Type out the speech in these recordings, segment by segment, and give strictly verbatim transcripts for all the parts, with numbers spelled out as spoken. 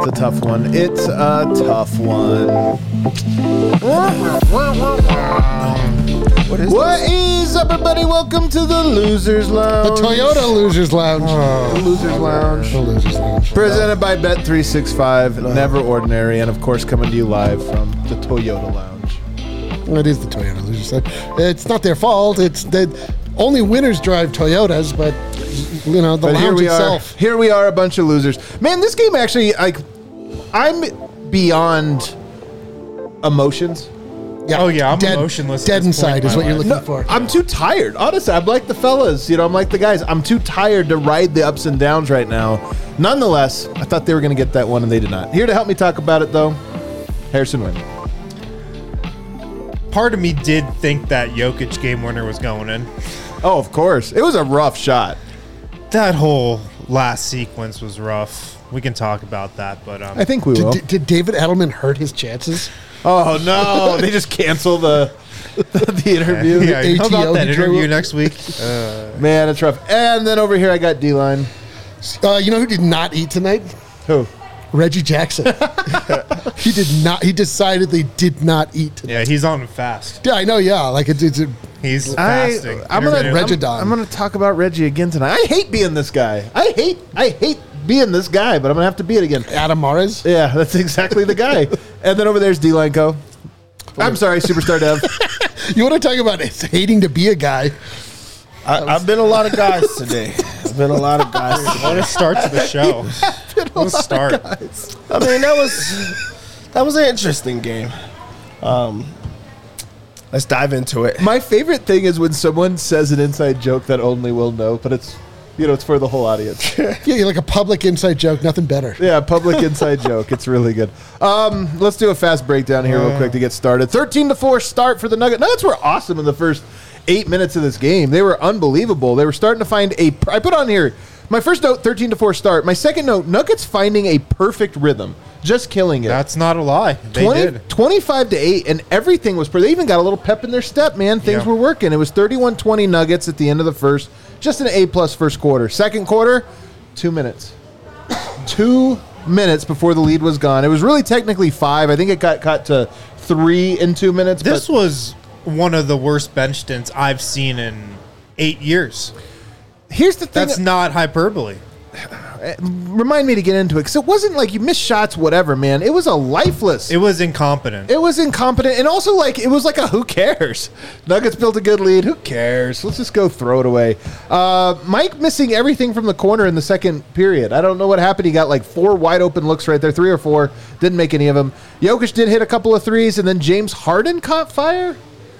It's a tough one. It's a tough one. What is What this? is up, everybody? Welcome to the Losers Lounge. The Toyota Losers Lounge. Oh, the Losers Lounge. The Losers Lounge. Presented by Bet three sixty-five, Never Ordinary, and of course coming to you live from the Toyota Lounge. It is the Toyota Losers Lounge. It's not their fault. It's that only winners drive Toyotas, but you know the but lounge here we itself. Are, here we are, a bunch of losers. Man, this game actually, like, I'm beyond emotions. Yeah. Oh yeah, I'm dead, emotionless. Dead inside is what you're looking no, for. I'm too tired. Honestly, I'm like the fellas. You know, I'm like the guys. I'm too tired to ride the ups and downs right now. Nonetheless, I thought they were going to get that one, and they did not. Here to help me talk about it, though, Harrison Wind. Part of me did think that Jokic game winner was going in. Oh, of course. It was a rough shot. That whole last sequence was rough. We can talk about that, but um, I think we will. Did, did David Edelman hurt his chances? Oh no! They just cancel the the interview. Yeah, the how about that intro? interview next week? Uh, Man, it's rough. And then over here, I got D-line. Uh, you know who did not eat tonight? Who? Reggie Jackson. He did not. He decidedly did not eat tonight. yeah, he's on a fast. Yeah, I know. Yeah, like it's. it's a, He's I, fasting. I'm gonna Intermittent. I'm, I'm gonna talk about Reggie again tonight. I hate being this guy. I hate I hate being this guy, but I'm gonna have to be it again. Adam Mares. Yeah, that's exactly the guy. And then over there's D-line Co. I'm sorry, Superstar Dev. You want to talk about it's hating to be a guy? I, I've been a lot of guys today. I've been a lot of guys today. What a start to the show. Let's start. I mean, that was that was an interesting game. Um, let's dive into it. My favorite thing is when someone says an inside joke that only we'll know, but it's, you know, it's for the whole audience. Yeah, you're like a public inside joke. Nothing better. Yeah, public inside joke. It's really good. Um, let's do a fast breakdown here real quick to get started. thirteen to four start for the Nuggets. Nuggets were awesome in the first eight minutes of this game. They were unbelievable. They were starting to find a, I put on here, my first note, thirteen to four start. My second note, Nuggets finding a perfect rhythm. Just killing it. That's not a lie. They twenty, did. twenty-five to eight, and everything was, they even got a little pep in their step, man. Things Yeah. were working. It was thirty-one twenty Nuggets at the end of the first. Just an A-plus first quarter. Second quarter, two minutes. Two minutes before the lead was gone. It was really technically five. I think it got cut to three in two minutes. This but was one of the worst bench stints I've seen in eight years. here's the thing. That's not hyperbole. Remind me to get into it, because it wasn't like you missed shots, whatever, man. It was a lifeless. It was incompetent. It was incompetent, and also like it was like a who cares? Nuggets built a good lead. Who cares? Let's just go throw it away. Uh, Mike missing everything from the corner in the second period. I don't know what happened. He got like four wide open looks right there, three or four. Didn't make any of them. Jokic did hit a couple of threes, and then James Harden caught fire.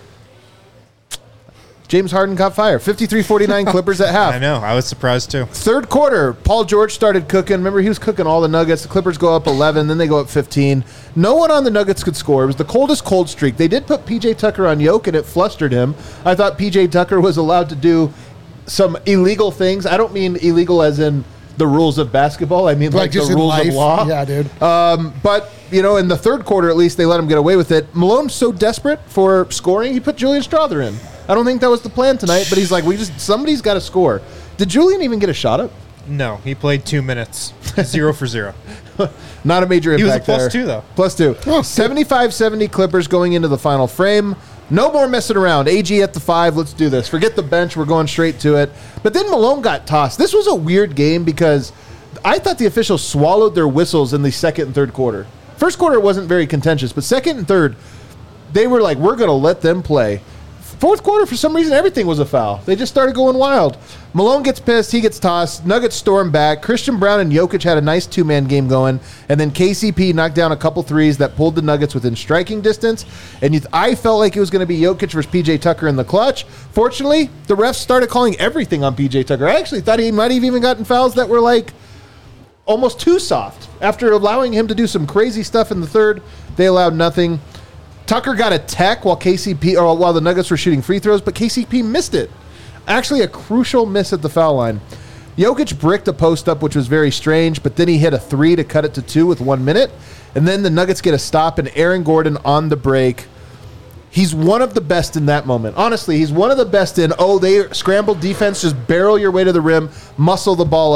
James Harden caught fire. fifty-three forty-nine Clippers at half. I know. I was surprised too. Third quarter, Paul George started cooking. Remember, he was cooking all the Nuggets. The Clippers go up eleven, then they go up fifteen. No one on the Nuggets could score. It was the coldest cold streak. They did put P J Tucker on Yoke, and it flustered him. I thought P J Tucker was allowed to do some illegal things. I don't mean illegal as in the rules of basketball. I mean like, Like just the in rules life. of law. Yeah, dude. Um, but, you know, in the third quarter, at least, they let him get away with it. Malone's so desperate for scoring, he put Julian Strother in. I don't think that was the plan tonight, but he's like, we just somebody's got to score. Did Julian even get a shot up? No, he played two minutes. Zero for zero. Not a major He was a impact plus there. two, though. Plus two. seventy-five seventy Clippers going into the final frame. No more messing around. A G at the five. Let's do this. Forget the bench. We're going straight to it. But then Malone got tossed. This was a weird game because I thought the officials swallowed their whistles in the second and third quarter. First quarter wasn't very contentious, but second and third, they were like, we're going to let them play. Fourth quarter, for some reason, everything was a foul. They just started going wild. Malone gets pissed. He gets tossed. Nuggets storm back. Christian Brown and Jokic had a nice two-man game going. And then K C P knocked down a couple threes that pulled the Nuggets within striking distance. And you th- I felt like it was going to be Jokic versus P J Tucker in the clutch. Fortunately, the refs started calling everything on P J Tucker. I actually thought he might have even gotten fouls that were like almost too soft. After allowing him to do some crazy stuff in the third, they allowed nothing. Tucker got a tech while K C P or while the Nuggets were shooting free throws, but K C P missed it. Actually, a crucial miss at the foul line. Jokic bricked a post up, which was very strange, but then he hit a three to cut it to two with one minute. And then the Nuggets get a stop, and Aaron Gordon on the break. He's one of the best in that moment. Honestly, he's one of the best in, oh, they scramble defense, just barrel your way to the rim, muscle the ball up,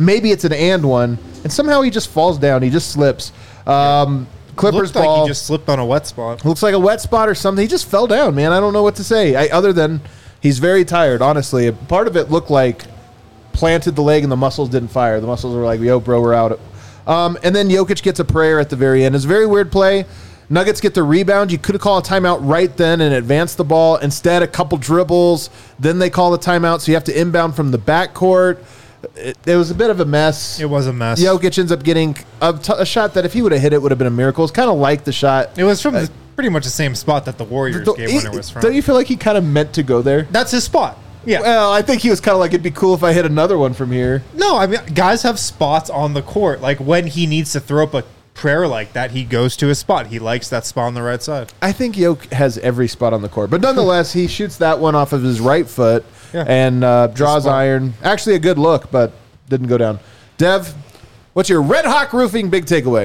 maybe it's an and one, and somehow he just falls down. He just slips. Um, Clippers Looked ball. like he just slipped on a wet spot. Looks like a wet spot or something. He just fell down, man. I don't know what to say. I, other than he's very tired, honestly. Part of it looked like planted the leg and the muscles didn't fire. The muscles were like, yo, bro, we're out. Um, and then Jokic gets a prayer at the very end. It's a very weird play. Nuggets get the rebound. You could have called a timeout right then and advanced the ball. Instead, a couple dribbles. Then they call the timeout, so you have to inbound from the backcourt. It, it was a bit of a mess. It was a mess. Jokic ends up getting a, t- a shot that if he would have hit it, would have been a miracle. It's kind of like the shot. It was from the, pretty much the same spot that the Warriors Don't- game winner was from. Don't you feel like he kind of meant to go there? That's his spot. Yeah. Well, I think he was kind of like, it'd be cool if I hit another one from here. No, I mean, guys have spots on the court. Like when he needs to throw up a prayer like that, he goes to his spot. He likes that spot on the right side. I think Jokic has every spot on the court. But nonetheless, he shoots that one off of his right foot Yeah. and uh, draws spot. iron. Actually, a good look, but didn't go down. Dev, what's your Red Hawk Roofing big takeaway?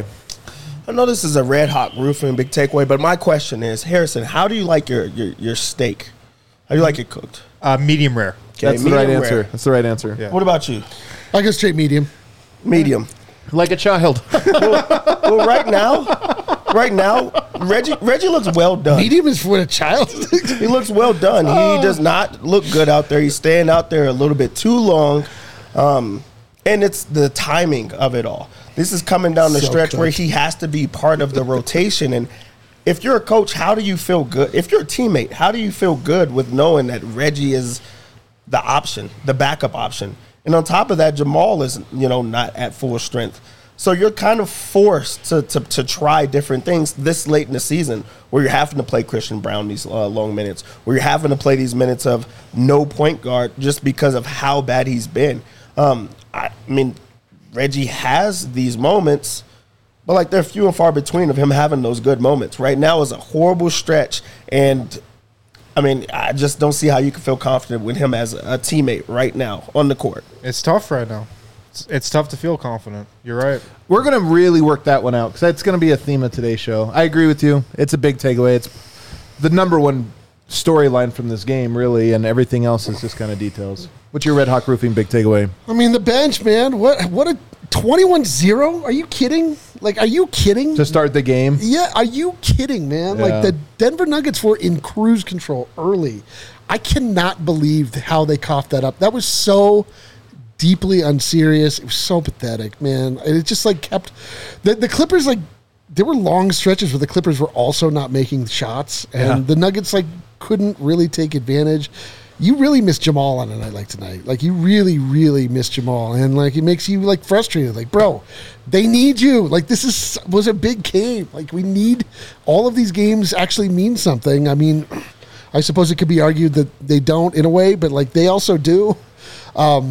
I know this is a Red Hawk Roofing big takeaway, but my question is, Harrison, how do you like your your, your steak? How do you like it cooked? Uh, medium rare. Okay, That's the right medium answer. rare. That's the right answer. Yeah. What about you? I go straight medium. Medium. Like a child. Well, right now, right now, Reggie Reggie looks well done. Medium is for a child. He looks well done. He does not look good out there. He's staying out there a little bit too long. Um, and it's the timing of it all. This is coming down the So stretch where cooked. he has to be part of the rotation. And if you're a coach, how do you feel good? If you're a teammate, how do you feel good with knowing that Reggie is the option, the backup option? And on top of that, Jamal is, you know, not at full strength. So you're kind of forced to, to, to try different things this late in the season where you're having to play Christian Brown these uh, long minutes, where you're having to play these minutes of no point guard just because of how bad he's been. Um, I mean, Reggie has these moments, but like they're few and far between of him having those good moments. Right now is a horrible stretch, and I mean, I just don't see how you can feel confident with him as a teammate right now on the court. It's tough right now. It's, it's tough to feel confident. You're right. We're going to really work that one out because that's going to be a theme of today's show. I agree with you. It's a big takeaway. It's the number one storyline from this game, really, and everything else is just kind of details. What's your Red Hawk Roofing big takeaway? I mean, the bench, man. What what a twenty-one zero? Are you kidding? Like, are you kidding? To start the game? Yeah, are you kidding, man? Yeah. Like, the Denver Nuggets were in cruise control early. I cannot believe how they coughed that up. That was so deeply unserious. It was so pathetic, man. And it just, like, kept... The, the Clippers, like, there were long stretches where the Clippers were also not making shots, and Yeah. the Nuggets, like, couldn't really take advantage. You really miss Jamal on a night like tonight. Like, you really, really miss Jamal. And, like, it makes you, like, frustrated. Like, bro, they need you. Like, this is was a big game. Like, we need all of these games actually mean something. I mean, I suppose it could be argued that they don't in a way, but, like, they also do. Um,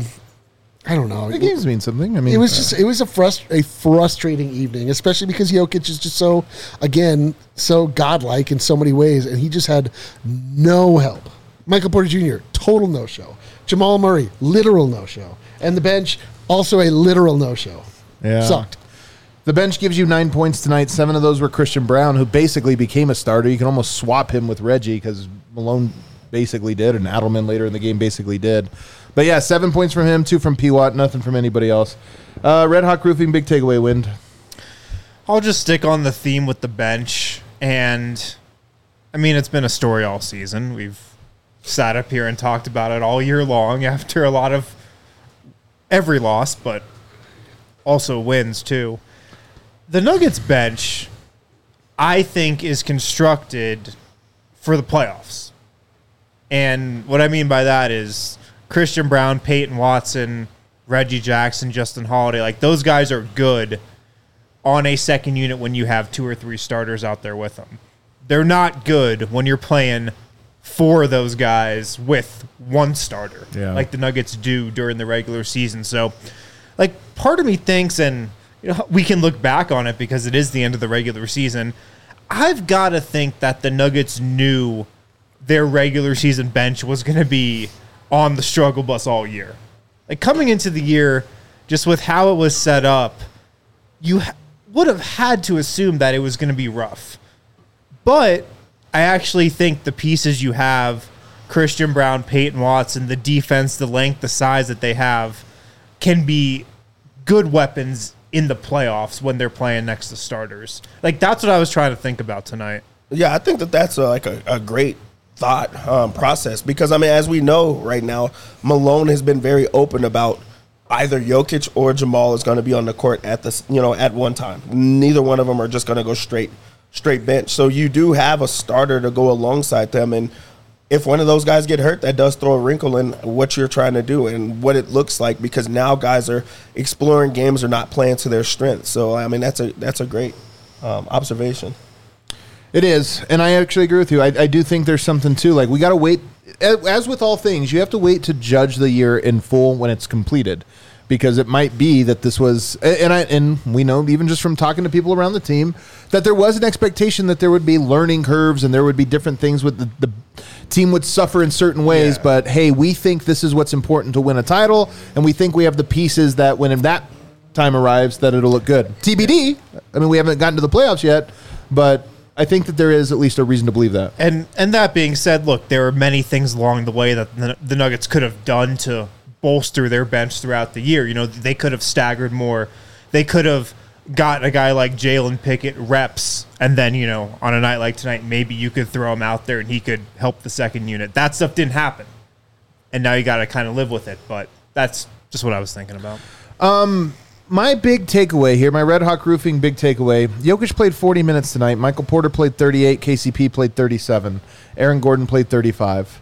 I don't know. The games mean something. I mean, It was just it was a frust- a frustrating evening, especially because Jokic is just so, again, so godlike in so many ways, and he just had no help. Michael Porter Junior, total no-show. Jamal Murray, literal no-show. And the bench, also a literal no-show. Yeah. Sucked. The bench gives you nine points tonight. Seven of those were Christian Brown, who basically became a starter. You can almost swap him with Reggie because Malone basically did, and Adelman later in the game basically did. But yeah, seven points from him, two from P. Watt, nothing from anybody else. Uh, Red Hawk Roofing, big takeaway, Wind. I'll just stick on the theme with the bench. And, I mean, it's been a story all season. We've sat up here and talked about it all year long after a lot of every loss, but also wins, too. The Nuggets bench, I think, is constructed for the playoffs. And what I mean by that is Christian Brown, Peyton Watson, Reggie Jackson, Justin Holiday, like those guys are good on a second unit when you have two or three starters out there with them. They're not good when you're playing four of those guys with one starter, Yeah. like the Nuggets do during the regular season. So, like, part of me thinks, and you know, we can look back on it because it is the end of the regular season, I've got to think that the Nuggets knew their regular season bench was going to be on the struggle bus all year. Like, coming into the year, just with how it was set up, you ha- would have had to assume that it was going to be rough. But I actually think the pieces you have, Christian Brown, Peyton Watson, the defense, the length, the size that they have, can be good weapons in the playoffs when they're playing next to starters. Like, that's what I was trying to think about tonight. Yeah, I think that that's a, like a, a great thought um, process because, I mean, as we know right now, Malone has been very open about either Jokic or Jamal is going to be on the court at this, you know, at one time. Neither one of them are just going to go straight straight bench. So you do have a starter to go alongside them, and if one of those guys get hurt, that does throw a wrinkle in what you're trying to do and what it looks like because now guys are exploring games or not playing to their strength. So I mean, that's a that's a great um, observation. It is, and I actually agree with you. I, I do think there's something too. Like we got to wait. As with all things, you have to wait to judge the year in full when it's completed, because it might be that this was, and I and we know even just from talking to people around the team that there was an expectation that there would be learning curves and there would be different things with the, the team would suffer in certain ways. Yeah. But hey, we think this is what's important to win a title, and we think we have the pieces that when that time arrives, that it'll look good. T B D. I mean, we haven't gotten to the playoffs yet, but I think that there is at least a reason to believe that. And and that being said, look, there are many things along the way that the, the Nuggets could have done to bolster their bench throughout the year. You know, they could have staggered more. They could have gotten a guy like Jalen Pickett reps, and then, you know, on a night like tonight, maybe you could throw him out there and he could help the second unit. That stuff didn't happen. And now you got to kind of live with it. But that's just what I was thinking about. Um, my big takeaway here, my Red Hawk Roofing big takeaway, Jokic played forty minutes tonight. Michael Porter played thirty-eight. K C P played thirty-seven. Aaron Gordon played thirty-five.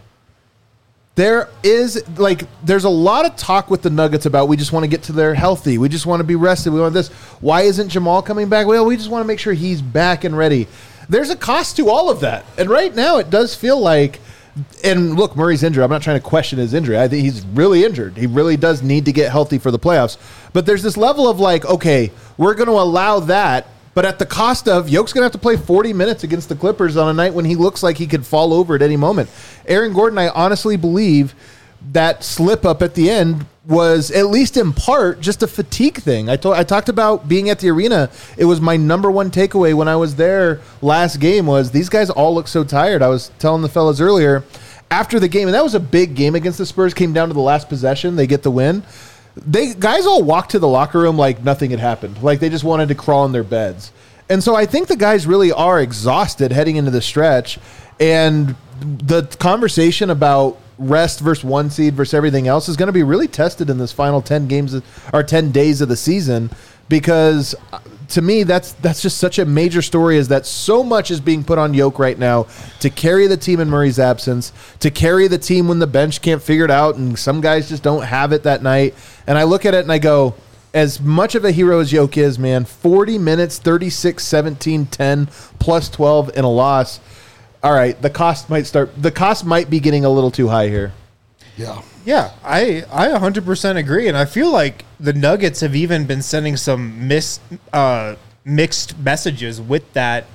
There is, like, there's a lot of talk with the Nuggets about we just want to get to there healthy. We just want to be rested. We want this. Why isn't Jamal coming back? Well, we just want to make sure he's back and ready. There's a cost to all of that. And right now it does feel like, and look, Murray's injured. I'm not trying to question his injury. I think he's really injured. He really does need to get healthy for the playoffs. But there's this level of like, okay, we're going to allow that, but at the cost of Yoke's going to have to play forty minutes against the Clippers on a night when he looks like he could fall over at any moment. Aaron Gordon, I honestly believe that slip up at the end was, at least in part, just a fatigue thing. I told, I talked about being at the arena. It was my number one takeaway when I was there last game was these guys all look so tired. I was telling the fellas earlier after the game, and that was a big game against the Spurs, came down to the last possession. They get the win. They guys all walked to the locker room like nothing had happened. Like they just wanted to crawl in their beds. And so I think the guys really are exhausted heading into the stretch. And the conversation about rest versus one seed versus everything else is going to be really tested in this final ten games or ten days of the season, because to me that's that's just such a major story, is that so much is being put on Yoke right now to carry the team in Murray's absence, to carry the team when the bench can't figure it out and some guys just don't have it that night. And I look at it and I go, as much of a hero as Yoke is, man, forty minutes, thirty-six, seventeen, ten, plus twelve in a loss. All right, the cost might start. The cost might be getting a little too high here. Yeah. Yeah, I, I one hundred percent agree. And I feel like the Nuggets have even been sending some mis, uh, mixed messages with that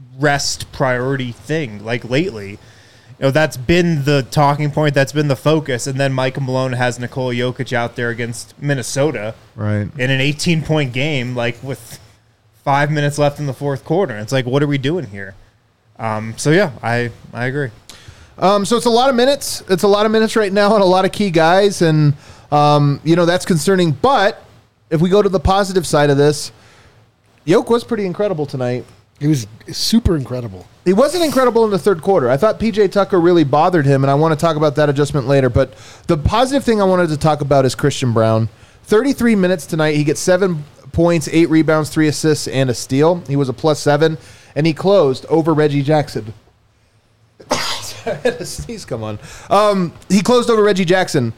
rest priority thing, like lately. You know, that's been the talking point. That's been the focus. And then Michael Malone has Nikola Jokic out there against Minnesota. Right. In an eighteen-point game, like with five minutes left in the fourth quarter. It's like, what are we doing here? Um, so, yeah, I, I agree. Um, so it's a lot of minutes. It's a lot of minutes right now and a lot of key guys. And, um, you know, that's concerning. But if we go to the positive side of this, Yoke was pretty incredible tonight. He was super incredible. He wasn't incredible in the third quarter. I thought P J Tucker really bothered him, and I want to talk about that adjustment later. But the positive thing I wanted to talk about is Christian Braun. thirty-three minutes tonight. He gets seven points, eight rebounds, three assists, and a steal. He was a plus seven, and he closed over Reggie Jackson. I had a sneeze come on. Um, he closed over Reggie Jackson.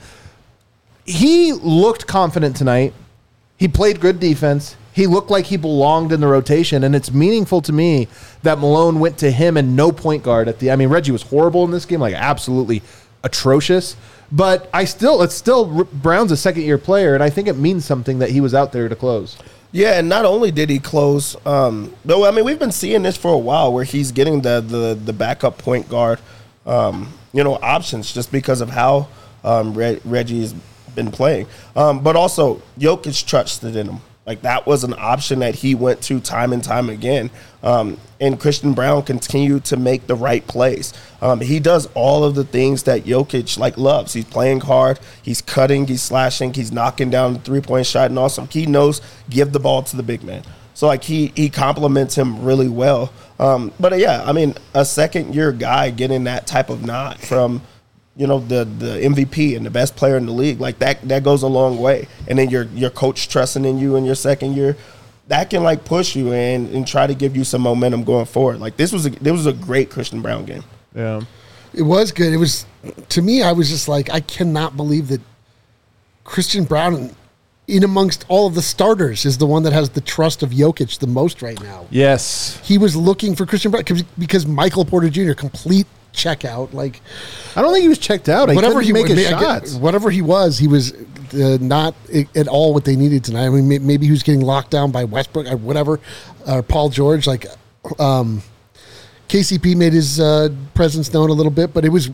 He looked confident tonight. He played good defense. He looked like he belonged in the rotation, and it's meaningful to me that Malone went to him and no point guard at the. I mean, Reggie was horrible in this game, like absolutely atrocious. But I still, it's still Brown's a second-year player, and I think it means something that he was out there to close. Yeah, and not only did he close, um, though, I mean, we've been seeing this for a while where he's getting the the, the backup point guard, um, you know, options just because of how um, Re- Reggie's been playing. Um, but also, Jokic trusted in him. Like, that was an option that he went to time and time again. Um, and Christian Braun continued to make the right plays. Um, he does all of the things that Jokic, like, loves. He's playing hard. He's cutting. He's slashing. He's knocking down the three-point shot. And also, he knows give the ball to the big man. So, like, he, he compliments him really well. Um, but, uh, yeah, I mean, a second-year guy getting that type of nod from – you know, the the M V P and the best player in the league, like that that goes a long way. And then your your coach trusting in you in your second year, that can like push you and and try to give you some momentum going forward. Like this was a this was a great Christian Braun game. Yeah, it was good. It was, to me, I was just like, I cannot believe that Christian Braun, in amongst all of the starters, is the one that has the trust of Jokic the most right now. yes. He was looking for Christian Braun because Michael Porter Junior complete checkout. Like, I don't think he was checked out. I whatever he make his I get- shots. whatever he was, he was uh, not i- at all what they needed tonight. I mean, may- maybe he was getting locked down by Westbrook or whatever, or Paul George. Like, um, K C P made his uh, presence known a little bit, but it was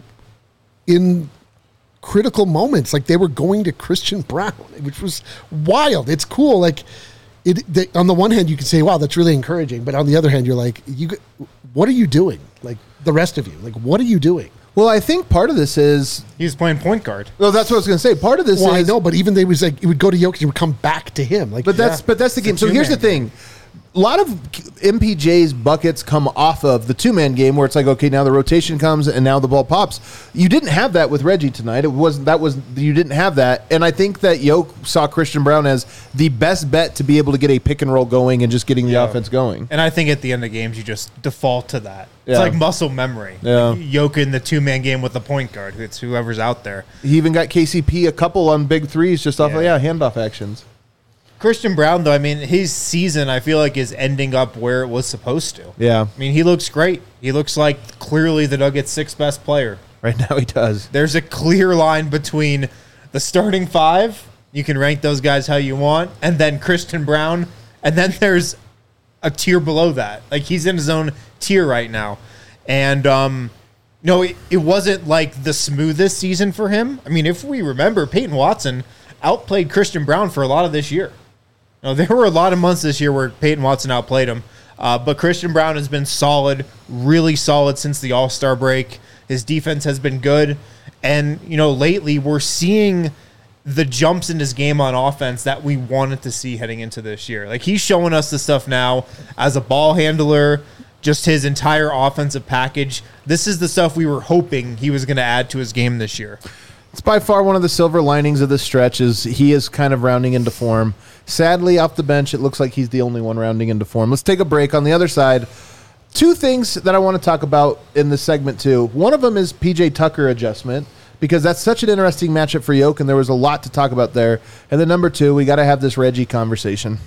in critical moments. Like, they were going to Christian Braun, which was wild. It's cool. Like, it. They, on the one hand, you can say, "Wow, that's really encouraging," but on the other hand, you're like, "You, g- what are you doing?" Like, the rest of you, like, what are you doing? Well, I think part of this is. He was playing point guard. Well, that's what I was going to say. Part of this Well, I is. know, but even they was like, it would go to Jokic, it would come back to him. Like, But that's Yeah. but that's the It's a game. So here's the two-man thing. A lot of M P J's buckets come off of the two-man game where it's like, okay, now the rotation comes and now the ball pops. You didn't have that with Reggie tonight. It wasn't that was you didn't have that. And I think that Yoke saw Christian Braun as the best bet to be able to get a pick and roll going and just getting the Yeah. offense going. And I think at the end of games, you just default to that. Yeah. It's like muscle memory. Yeah. Like Jokic in the two-man game with the point guard. It's whoever's out there. He even got K C P a couple on big threes just off Yeah. of yeah, handoff actions. Christian Braun, though, I mean, his season, I feel like, is ending up where it was supposed to. Yeah. I mean, he looks great. He looks like clearly the Nuggets' sixth best player. Right now he does. There's a clear line between the starting five, you can rank those guys how you want, and then Christian Braun, and then there's a tier below that. Like, he's in his own tier right now. And, um, no, it, it wasn't like the smoothest season for him. I mean, if we remember, Peyton Watson outplayed Christian Braun for a lot of this year. Now, there were a lot of months this year where Peyton Watson outplayed him, uh, but Christian Braun has been solid, really solid since the All-Star break. His defense has been good, and, you know, lately we're seeing the jumps in his game on offense that we wanted to see heading into this year. Like, he's showing us the stuff now as a ball handler, just his entire offensive package. This is the stuff we were hoping he was going to add to his game this year. It's by far one of the silver linings of this stretch is he is kind of rounding into form. Sadly, off the bench, it looks like he's the only one rounding into form. Let's take a break. On the other side, two things that I want to talk about in this segment, too. One of them is P J Tucker adjustment, because that's such an interesting matchup for Yoke, and there was a lot to talk about there. And then number two, we got to have this Reggie conversation.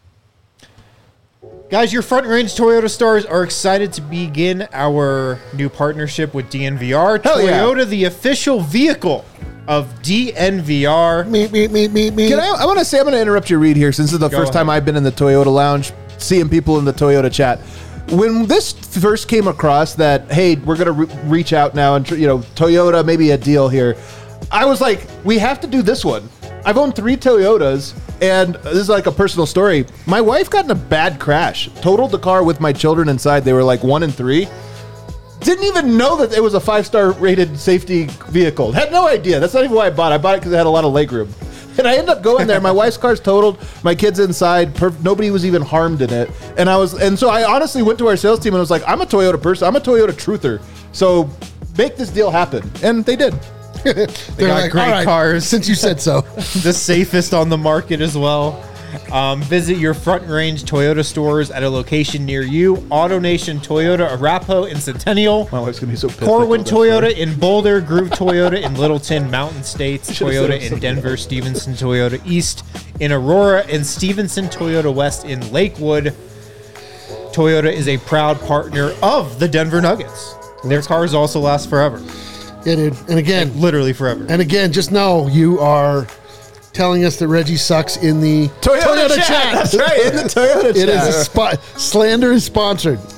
Guys, your Front Range Toyota stars are excited to begin our new partnership with D N V R. Hell yeah. Toyota, the official vehicle of D N V R. me, me, me, me, me. Can I, I want to say, I'm going to interrupt your read here since this is the Go first time ahead. I've been in the Toyota lounge, seeing people in the Toyota chat. When this first came across that, hey, we're going to re- reach out now and, you know, Toyota, maybe a deal here, I was like, we have to do this one. I've owned three Toyotas, and this is like a personal story. My wife got in a bad crash, totaled the car with my children inside. They were like one and three. Didn't even know that it was a five-star rated safety vehicle. Had no idea. That's not even why I bought it. I bought it because it had a lot of legroom. And I ended up going there. My wife's car's totaled. My kid's inside. Perf- nobody was even harmed in it. And I was, and so I honestly went to our sales team and was like, I'm a Toyota person. I'm a Toyota truther. So make this deal happen. And they did. They're got great "All right, cars." since you said so. The safest on the market as well. Um, visit your Front Range Toyota stores at a location near you. AutoNation Toyota, Arapahoe, and Centennial. My wife's going to be so pissed. Corwin I told that Toyota in Boulder, Groove Toyota in Littleton, Mountain States, Should've said it Toyota was in something Denver, else. Stevenson Toyota East in Aurora, and Stevenson Toyota West in Lakewood. Toyota is a proud partner of the Denver Nuggets. Their cars also last forever, Yeah, dude. And again, literally forever. and again, just know you are telling us that Reggie sucks in the Toyota, chat. That's right. In the Toyota chat. It is a spot. Slander is sponsored.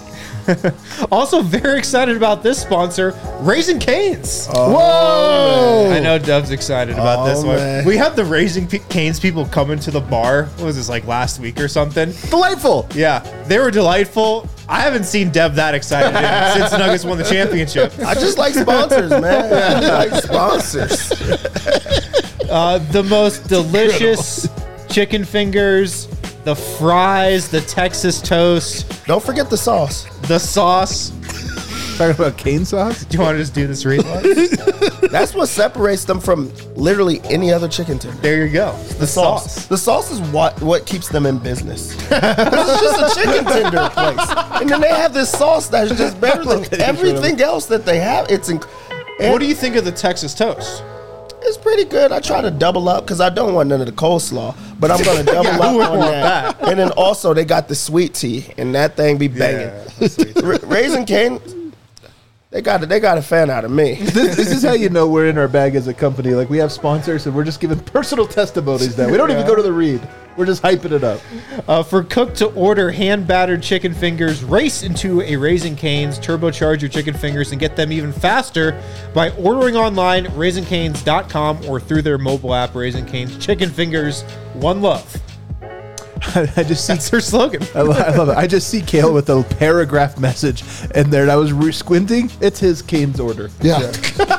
Also, very excited about this sponsor, Raising Cane's. Whoa! I know Dub's excited about Oh, this one. man. We had the Raising P- Cane's people come into the bar. What was this, like last week or something? Delightful. Yeah, they were delightful. I haven't seen Deb that excited in- since the Nuggets won the championship. I just like sponsors, man. I just like sponsors. Uh, the most delicious chicken fingers, the fries, the Texas toast, Don't forget the sauce. the sauce. Talking about cane sauce? Do you want to just do this read? That's what separates them from literally any other chicken tender. There you go. The sauce. The sauce is what what keeps them in business. It's just a chicken tender place, and then they have this sauce that's just better than everything else that they have. It's inc- and What do you think of the Texas toast? It's pretty good. I try to double up because I don't want none of the coleslaw, but I'm going to double Yeah, up who would on want that. that? And then also they got the sweet tea, and that thing be banging. Ra- Raising Cane, they got they got a fan out of me. This, this is how you know we're in our bag as a company. Like, we have sponsors and we're just giving personal testimonies now. We don't even go to the read. We're just hyping it up. Uh, for cooked to order hand battered chicken fingers, race into a Raising Cane's, turbocharge your chicken fingers, and get them even faster by ordering online, raising canes dot com, or through their mobile app, Raising Cane's Chicken Fingers. One love. I just see That's their slogan. I, lo- I love it. I just see Kale with a paragraph message in there, and I was re- squinting. It's his Cane's order. Yeah.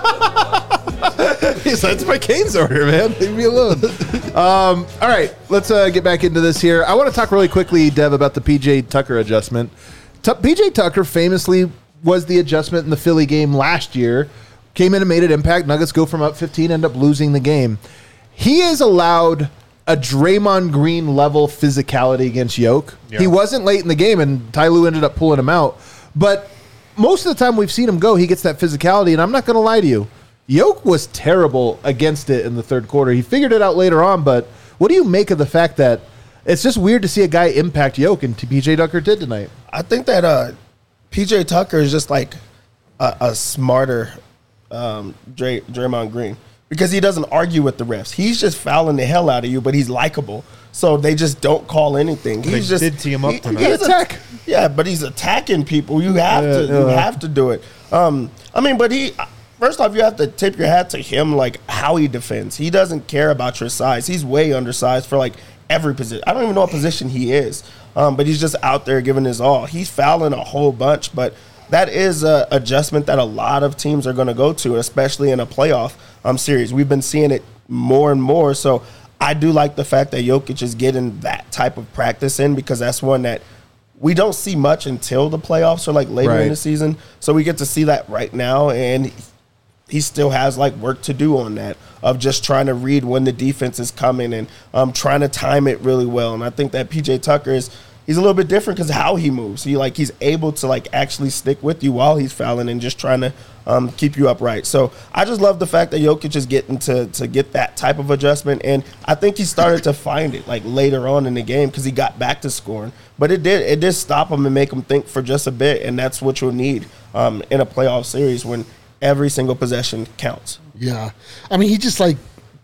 He's like, it's my Cane's order, man. Leave me alone. um, all right, let's uh, get back into this here. I want to talk really quickly, Dev, about the P J Tucker adjustment. Tu- P J Tucker famously was the adjustment in the Philly game last year. Came in and made an impact. Nuggets go from up fifteen, end up losing the game. He is allowed a Draymond Green level physicality against Yoke. Yeah. He wasn't late in the game, and Ty Lue ended up pulling him out. But most of the time we've seen him go, he gets that physicality, and I'm not going to lie to you. Yoke was terrible against it in the third quarter. He figured it out later on, but what do you make of the fact that it's just weird to see a guy impact Yoke, and P J Tucker did tonight? I think that uh, P J Tucker is just like a, a smarter um, Dray, Draymond Green because he doesn't argue with the refs. He's just fouling the hell out of you, but he's likable. So they just don't call anything. He's They just did tee him up he- tonight. he's a- Attack. Yeah, but he's attacking people. You have Yeah, to. You yeah. have to do it. Um, I mean, but he. First off, you have to tip your hat to him, like how he defends. He doesn't care about your size. He's way undersized for like every position. I don't even know what position he is, um, but he's just out there giving his all. He's fouling a whole bunch, but that is a adjustment that a lot of teams are going to go to, especially in a playoff um, series. We've been seeing it more and more. So I do like the fact that Jokic is getting that type of practice in because that's one that we don't see much until the playoffs or like later Right. in the season. So we get to see that right now, and he still has like work to do on that of just trying to read when the defense is coming and um, trying to time it really well. And I think that P J Tucker is he's a little bit different because how he moves. He like he's able to like actually stick with you while he's fouling and just trying to um, keep you upright. So I just love the fact that Jokic is getting to to get that type of adjustment, and I think he started to find it like later on in the game because he got back to scoring. But it did it did stop him and make him think for just a bit, and that's what you'll need um, in a playoff series when every single possession counts. Yeah, I mean, he just like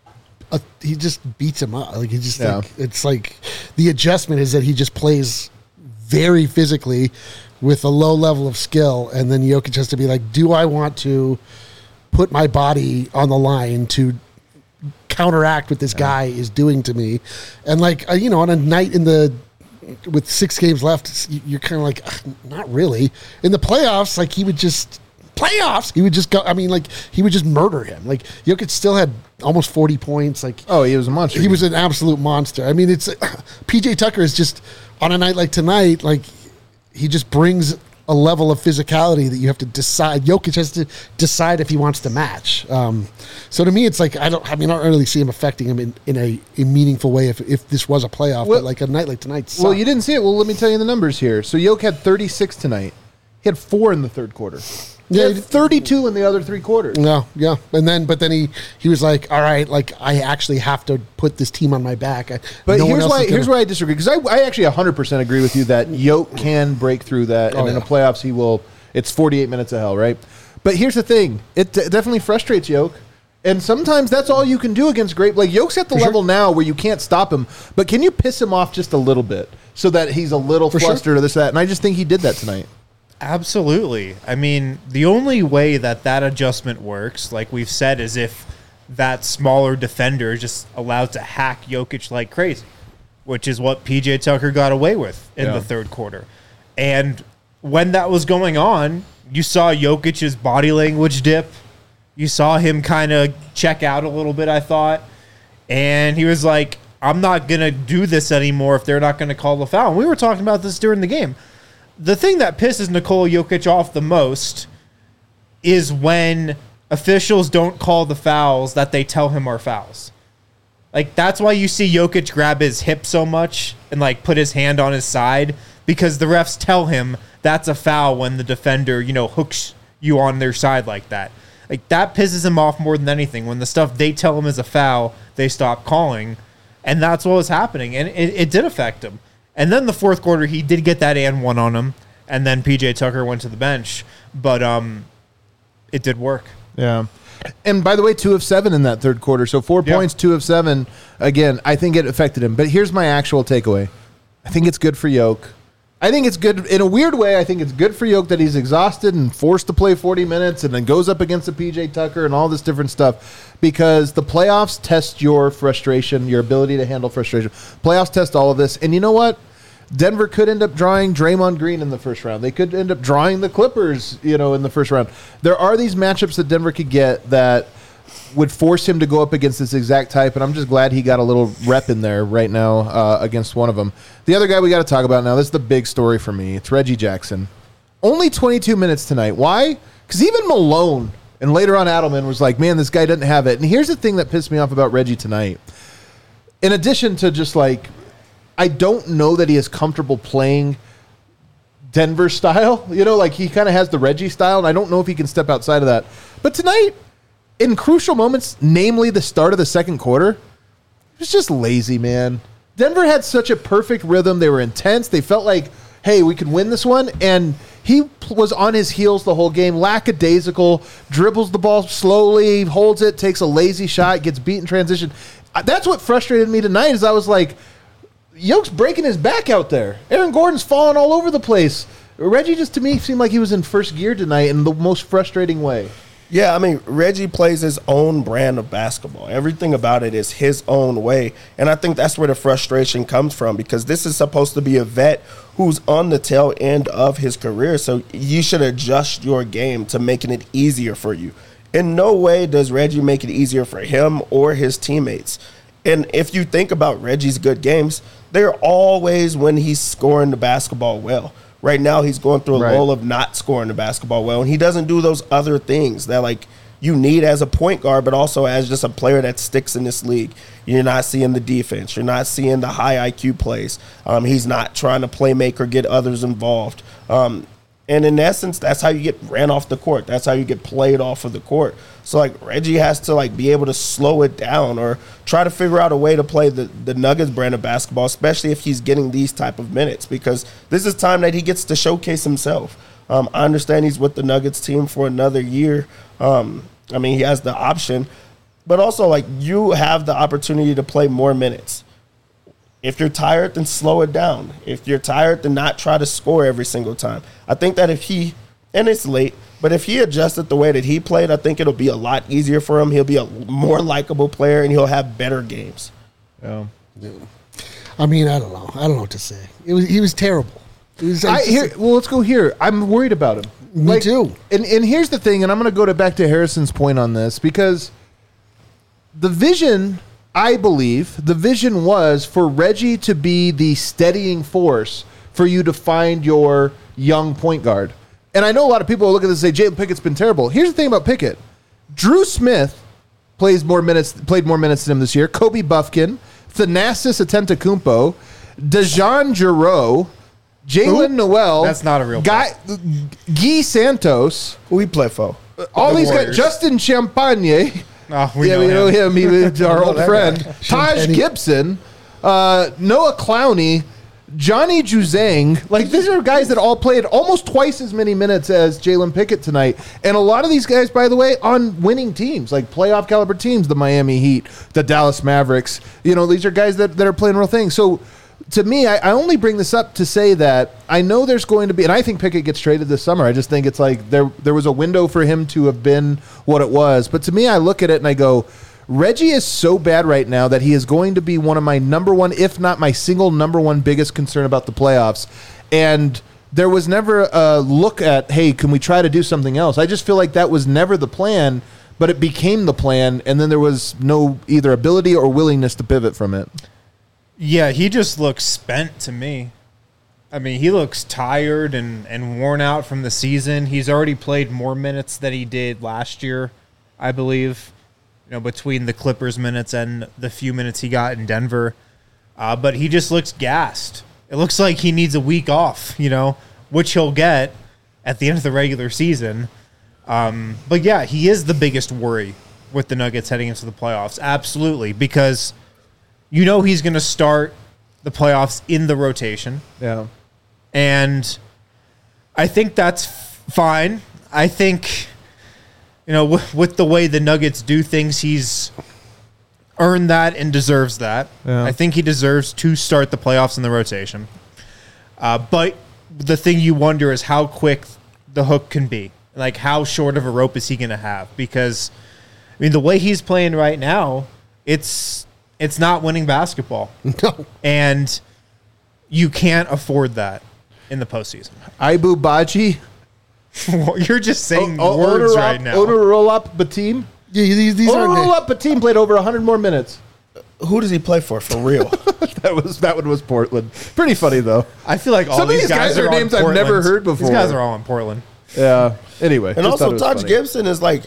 uh, he just beats him up. Like he just Yeah. like it's like the adjustment is that he just plays very physically with a low level of skill, and then Jokic has to be like, do I want to put my body on the line to counteract what this guy is doing to me? And like uh, you know, on a night in the with six games left, it's- you're kind of like, "Ugh, not really. In the playoffs, like he would just. Playoffs, he would just go. I mean, like he would just murder him. Like Jokic still had almost forty points. Like Oh, he was a monster. he was an absolute monster. I mean, it's P J Tucker is just on a night like tonight. Like he just brings a level of physicality that you have to decide. Jokic has to decide if he wants to match. Um, so to me, it's like I don't. I mean, I don't really see him affecting him in, in a, a meaningful way. If if this was a playoff, Well- but like a night like tonight. Well, sucked. you didn't see it. Well, let me tell you the numbers here. So Yoke had thirty-six tonight. He had four in the third quarter. He Yeah, had he- thirty-two in the other three quarters. No, yeah, and then but then he he was like, all right, like I actually have to put this team on my back. I, But no one here's else why is here's gonna- why I disagree, because I, I actually one hundred percent agree with you that Yoke can break through that, and Oh, in the yeah. playoffs he will. It's forty-eight minutes of hell, right? But here's the thing: it d- definitely frustrates Yoke, and sometimes that's all you can do against great. Like Yoke's at the For level sure. now where you can't stop him, but can you piss him off just a little bit so that he's a little For sure. flustered or this that? And I just think he did that tonight. Absolutely. I mean, the only way that that adjustment works, like we've said, is if that smaller defender is just allowed to hack Jokic like crazy, which is what P J Tucker got away with in Yeah. the third quarter. And when that was going on, you saw Jokic's body language dip. You saw him kind of check out a little bit, I thought. And he was like, I'm not going to do this anymore if they're not going to call the foul. And we were talking about this during the game. The thing that pisses Nikola Jokic off the most is when officials don't call the fouls that they tell him are fouls. Like, that's why you see Jokic grab his hip so much and, like, put his hand on his side, because the refs tell him that's a foul when the defender, you know, hooks you on their side like that. Like, that pisses him off more than anything. When the stuff they tell him is a foul, they stop calling. And that's what was happening. And it, it did affect him. And then the fourth quarter, he did get that and one on him. And then P J Tucker went to the bench. But um, it did work. Yeah. And by the way, two of seven in that third quarter. So four Yeah. points, two of seven. Again, I think it affected him. But here's my actual takeaway. I think it's good for Yoke. I think it's good in a weird way. I think it's good for Yoke that he's exhausted and forced to play forty minutes and then goes up against a P J Tucker and all this different stuff, because the playoffs test your frustration, your ability to handle frustration. Playoffs test all of this. And you know what? Denver could end up drawing Draymond Green in the first round. They could end up drawing the Clippers, you know, in the first round. There are these matchups that Denver could get that would force him to go up against this exact type, and I'm just glad he got a little rep in there right now uh, against one of them. The other guy we got to talk about now, this is the big story for me. It's Reggie Jackson. Only twenty-two minutes tonight. Why? Because even Malone and later on Adelman was like, man, this guy doesn't have it. And here's the thing that pissed me off about Reggie tonight. In addition to just like, I don't know that he is comfortable playing Denver style. You know, like he kind of has the Reggie style, and I don't know if he can step outside of that. But tonight, in crucial moments, namely the start of the second quarter, it was just lazy, man. Denver had such a perfect rhythm. They were intense. They felt like, hey, we could win this one. And he p- was on his heels the whole game, lackadaisical, dribbles the ball slowly, holds it, takes a lazy shot, gets beat in transition. Uh, That's what frustrated me tonight is I was like, Yoke's breaking his back out there. Aaron Gordon's falling all over the place. Reggie just, to me, seemed like he was in first gear tonight in the most frustrating way. Yeah, I mean, Reggie plays his own brand of basketball. Everything about it is his own way. And I think that's where the frustration comes from, because this is supposed to be a vet who's on the tail end of his career. So you should adjust your game to making it easier for you. In no way does Reggie make it easier for him or his teammates. And if you think about Reggie's good games, they're always when he's scoring the basketball well. Right now, he's going through a Right. lull of not scoring the basketball well, and he doesn't do those other things that like you need as a point guard, but also as just a player that sticks in this league. You're not seeing the defense. You're not seeing the high I Q plays. Um, he's not trying to play make or get others involved. Um, and in essence, that's how you get ran off the court. That's how you get played off of the court. So like Reggie has to like be able to slow it down or try to figure out a way to play the, the Nuggets brand of basketball, especially if he's getting these type of minutes, because this is time that he gets to showcase himself. Um, I understand he's with the Nuggets team for another year. Um, I mean, he has the option, but also like you have the opportunity to play more minutes. If you're tired, then slow it down. If you're tired, then not try to score every single time. I think that if he, and it's late, but if he adjusted the way that he played, I think it'll be a lot easier for him. He'll be a more likable player, and he'll have better games. Yeah. I mean, I don't know. I don't know what to say. It was he was terrible. It was, I, just- here, well, let's go here. I'm worried about him. Me too. And and here's the thing, and I'm going to go to back to Harrison's point on this, because the vision, I believe, the vision was for Reggie to be the steadying force for you to find your young point guard. And I know a lot of people will look at this and say, Jalen Pickett's been terrible. Here's the thing about Pickett. Drew Smith plays more minutes, played more minutes than him this year. Kobe Buffkin, Thanasis Antetokounmpo, Dejan Giroux, Jalen Noel. That's not a real guy. Guy Santos. Who he play for? All The these guys. Warriors. Justin Champagne. Oh, we yeah, know we know him. him. He was our old that friend. guy. Taj Champagne. Gibson, uh, Noah Clowney, Johnny Juzang. Like, these are guys that all played almost twice as many minutes as Jalen Pickett tonight. And a lot of these guys, by the way, on winning teams, like playoff caliber teams, the Miami Heat, the Dallas Mavericks. You know, these are guys that, that are playing real things. So to me, I, I only bring this up to say that I know there's going to be, and I think Pickett gets traded this summer. I just think it's like there there was a window for him to have been what it was. But to me, I look at it and I go, Reggie is so bad right now that he is going to be one of my number one, if not my single number one biggest concern about the playoffs. And there was never a look at, hey, can we try to do something else? I just feel like that was never the plan, but it became the plan, and then there was no either ability or willingness to pivot from it. Yeah, he just looks spent to me. I mean, he looks tired and, and worn out from the season. He's already played more minutes than he did last year, I believe, you know, between the Clippers minutes and the few minutes he got in Denver. Uh, but he just looks gassed. It looks like he needs a week off, you know, which he'll get at the end of the regular season. Um, but, yeah, he is the biggest worry with the Nuggets heading into the playoffs. Absolutely, because – you know he's going to start the playoffs in the rotation. Yeah. And I think that's f- fine. I think, you know, w- with the way the Nuggets do things, he's earned that and deserves that. Yeah. I think he deserves to start the playoffs in the rotation. Uh, but the thing you wonder is how quick the hook can be. Like, how short of a rope is he going to have? Because, I mean, the way he's playing right now, it's... It's not winning basketball. No. And you can't afford that in the postseason. Ibu Baji. You're just saying O- words Onuralp- right now. Onuralp Batim. Yeah, these, these aren't. Onuralp Batim played over one hundred more minutes. Who does he play for, for real? That was that one was Portland. Pretty funny though. I feel like all Some of these these guys, guys are on names I've Portland. never heard before. These guys are all in Portland. Yeah. Anyway, And just thought also, it was Taj funny. Gibson is like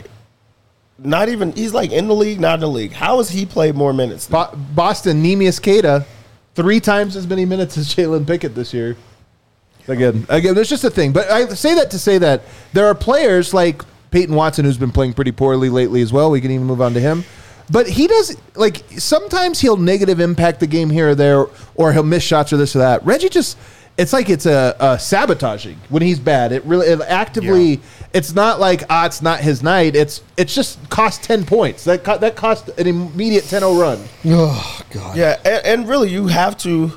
not even, he's like in the league, not in the league. How has he played more minutes? Bo- Boston, Neemias Queta, three times as many minutes as Jalen Pickett this year. Again, again, there's just a thing. But I say that to say that there are players like Peyton Watson who's been playing pretty poorly lately as well. We can even move on to him. But he does, like, sometimes he'll negative impact the game here or there, or he'll miss shots or this or that. Reggie just, it's like it's a, a sabotaging when he's bad. It really, it actively, Yeah. it's not like, ah, it's not his night. It's it's just cost ten points. That co- that cost an immediate ten oh run. Oh God. Yeah, and, and really, you have to.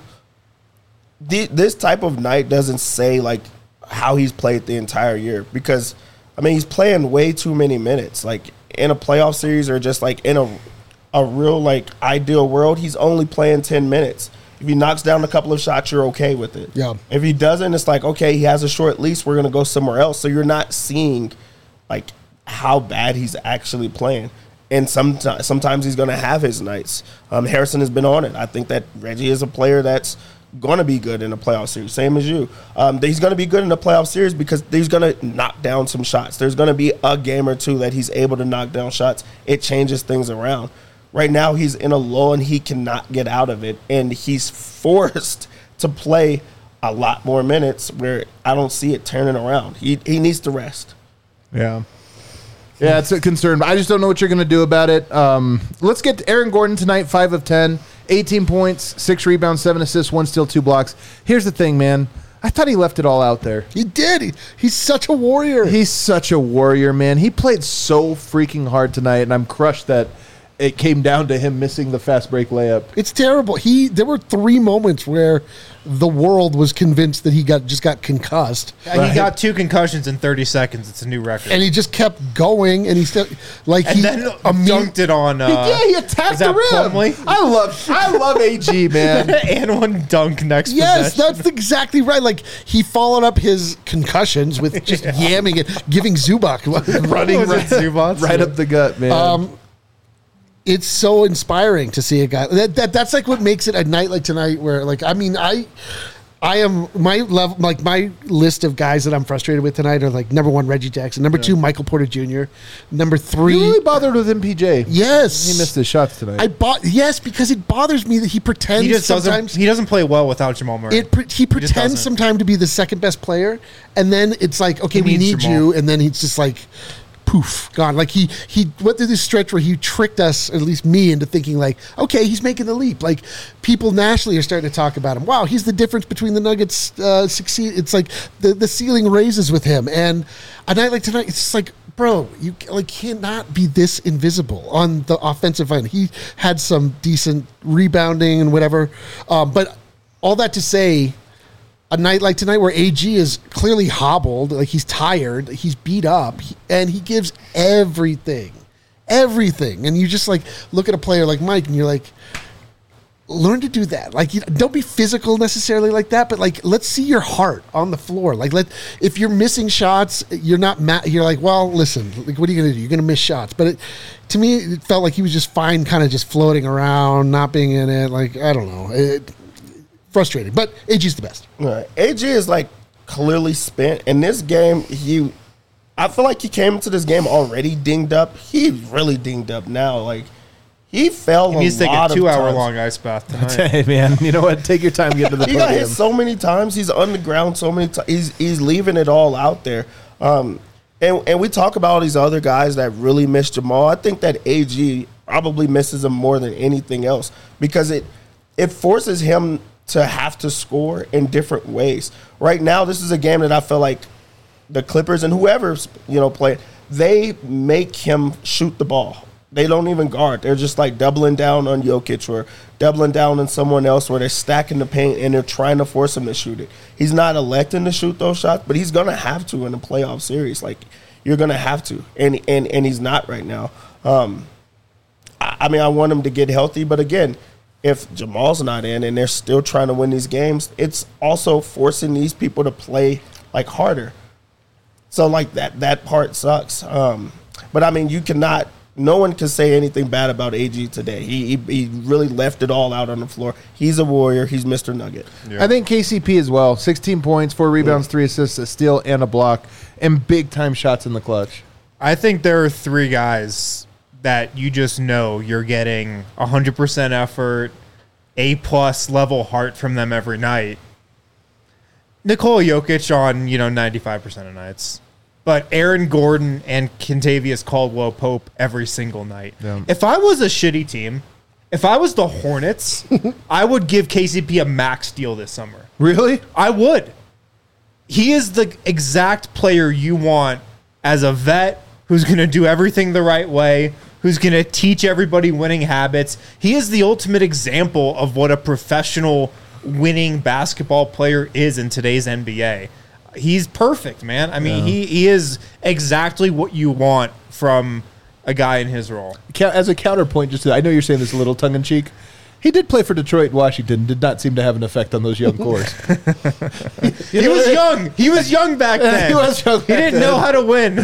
The, this type of night doesn't say like how he's played the entire year because, I mean, he's playing way too many minutes. Like in a playoff series or just like in a a real like ideal world, he's only playing ten minutes. If he knocks down a couple of shots, you're okay with it. Yeah. If he doesn't, it's like, okay, he has a short lease. We're gonna go somewhere else. So you're not seeing like how bad he's actually playing. And sometimes, sometimes he's going to have his nights. Um, Harrison has been on it. I think that Reggie is a player that's going to be good in a playoff series, same as you. Um, he's going to be good in a playoff series because he's going to knock down some shots. There's going to be a game or two that he's able to knock down shots. It changes things around. Right now, he's in a lull and he cannot get out of it. And he's forced to play a lot more minutes where I don't see it turning around. He he needs to rest. Yeah. Yeah, it's a concern. I just don't know what you're going to do about it. Um, let's get to Aaron Gordon tonight, five of ten, eighteen points, six rebounds, seven assists, one steal, two blocks. Here's the thing, man. I thought he left it all out there. He did. He, he's such a warrior. He's such a warrior, man. He played so freaking hard tonight, and I'm crushed that it came down to him missing the fast break layup. It's terrible. He there were three moments where the world was convinced that he got just got concussed, Yeah, He got two concussions in thirty seconds. It's a new record. and he just kept going, and he still like And he then imme- dunked it on. Uh, yeah, he attacked is the that rim. Plumlee? I love, I love A G, man. and one dunk next Yes, possession. that's exactly right. Like he followed up his concussions with just yamming it, giving Zubac running Was it right, Zubats? Right up the gut, man. Um, it's so inspiring to see a guy that, that that's like what makes it a night like tonight where like I mean I I am my level like my list of guys that I'm frustrated with tonight are like number one Reggie Jackson, number two Michael Porter Junior, number three you really bothered with M P J. yes He missed his shots tonight. I bought yes because it bothers me that he pretends He just sometimes doesn't. He doesn't play well without Jamal Murray. it pre- he just pretends doesn't. sometimes to be the second best player, and then it's like okay He we needs need Jamal. you, and then he's just like poof gone. Like he he went through this stretch where he tricked us, at least me, into thinking like okay he's making the leap. Like people nationally are starting to talk about him. Wow, he's the difference between the Nuggets uh, succeed. It's like the the ceiling raises with him, and a night like tonight it's just like. Bro, you like cannot be this invisible on the offensive end. He had some decent rebounding and whatever, um, but all that to say, a night like tonight where A G is clearly hobbled, like he's tired, he's beat up, he- and he gives everything, everything. And you just like look at a player like Mike, and you're like, learn to do that. Like, you don't be physical necessarily like that, but like, let's see your heart on the floor. Like, let if you're missing shots, you're not ma- You're like, well, listen, like, what are you gonna do? You're gonna miss shots. But it, to me, it felt like he was just fine, kind of just floating around, not being in it. Like, I don't know, it, frustrating. But A G's the best. Right. A G is like clearly spent in this game. He, I feel like he came into this game already dinged up. He's really dinged up now. Like. He fell He needs a to take lot a of two-hour times. long ice bath tonight. Hey, man, you know what? Take your time to get to the He got hit podium. so many times. He's on the ground so many times. He's he's leaving it all out there. Um, and and we talk about all these other guys that really miss Jamal. I think that A G probably misses him more than anything else because it it forces him to have to score in different ways. Right now, this is a game that I feel like the Clippers and whoever's you know play, they make him shoot the ball. They don't even guard. They're just like doubling down on Jokic or doubling down on someone else where they're stacking the paint and they're trying to force him to shoot it. He's not electing to shoot those shots, but he's going to have to in a playoff series. Like, you're going to have to. And and and he's not right now. Um, I, I mean, I want him to get healthy. But again, if Jamal's not in and they're still trying to win these games, it's also forcing these people to play, like, harder. So, like, that, that part sucks. Um, but, I mean, you cannot – no one can say anything bad about A G today. He, he he really left it all out on the floor. He's a warrior. He's Mister Nugget. I think K C P as well. sixteen points, four rebounds, three assists, a steal, and a block, and big-time shots in the clutch. I think there are three guys that you just know you're getting one hundred percent effort, A-plus level heart from them every night. Nikola Jokic on, you know, ninety-five percent of nights. But Aaron Gordon and Kentavious Caldwell-Pope every single night. Yeah. If I was a shitty team, if I was the Hornets, I would give K C P a max deal this summer. Really? I would. He is the exact player you want as a vet who's going to do everything the right way, who's going to teach everybody winning habits. He is the ultimate example of what a professional winning basketball player is in today's N B A. He's perfect, man. I mean, Yeah. he, he is exactly what you want from a guy in his role. Ca- As a counterpoint, just to, I know you're saying this a little tongue-in-cheek. He did play for Detroit and Washington. Did not seem to have an effect on those young cores. He was young. He was young back then. He was young He back didn't then. know how to win.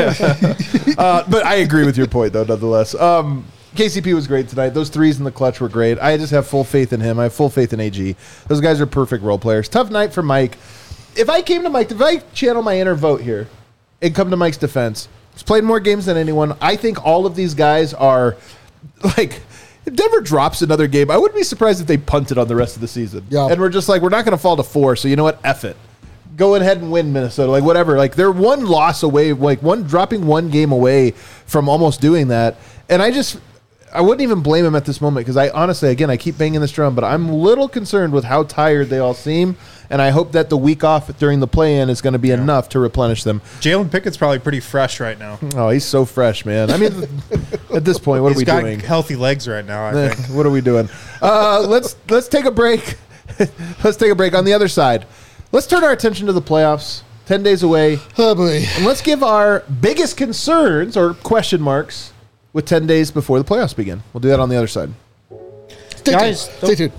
uh, but I agree with your point, though, nonetheless. Um, K C P was great tonight. Those threes in the clutch were great. I just have full faith in him. I have full faith in A G. Those guys are perfect role players. Tough night for Mike. If I came to Mike, if I channel my inner vote here and come to Mike's defense, he's played more games than anyone. I think all of these guys are, like, if Denver drops another game, I wouldn't be surprised if they punted on the rest of the season. Yeah. And we're just like, we're not going to fall to four, so you know what? F it. Go ahead and win Minnesota, like whatever. Like they're one loss away, like one dropping one game away from almost doing that. And I just, I wouldn't even blame him at this moment because I honestly, again, I keep banging this drum, but I'm a little concerned with how tired they all seem. And I hope that the week off during the play-in is going to be yeah. enough to replenish them. Jalen Pickett's probably pretty fresh right now. Oh, he's so fresh, man. I mean, at this point, what he's are we got doing? Healthy legs right now, I think. What are we doing? Uh, let's let's take a break. Let's take a break. On the other side, let's turn our attention to the playoffs. Ten days away. Oh, boy. And let's give our biggest concerns or question marks with ten days before the playoffs begin. We'll do that on the other side. Stay Guys, tuned. Stay tuned.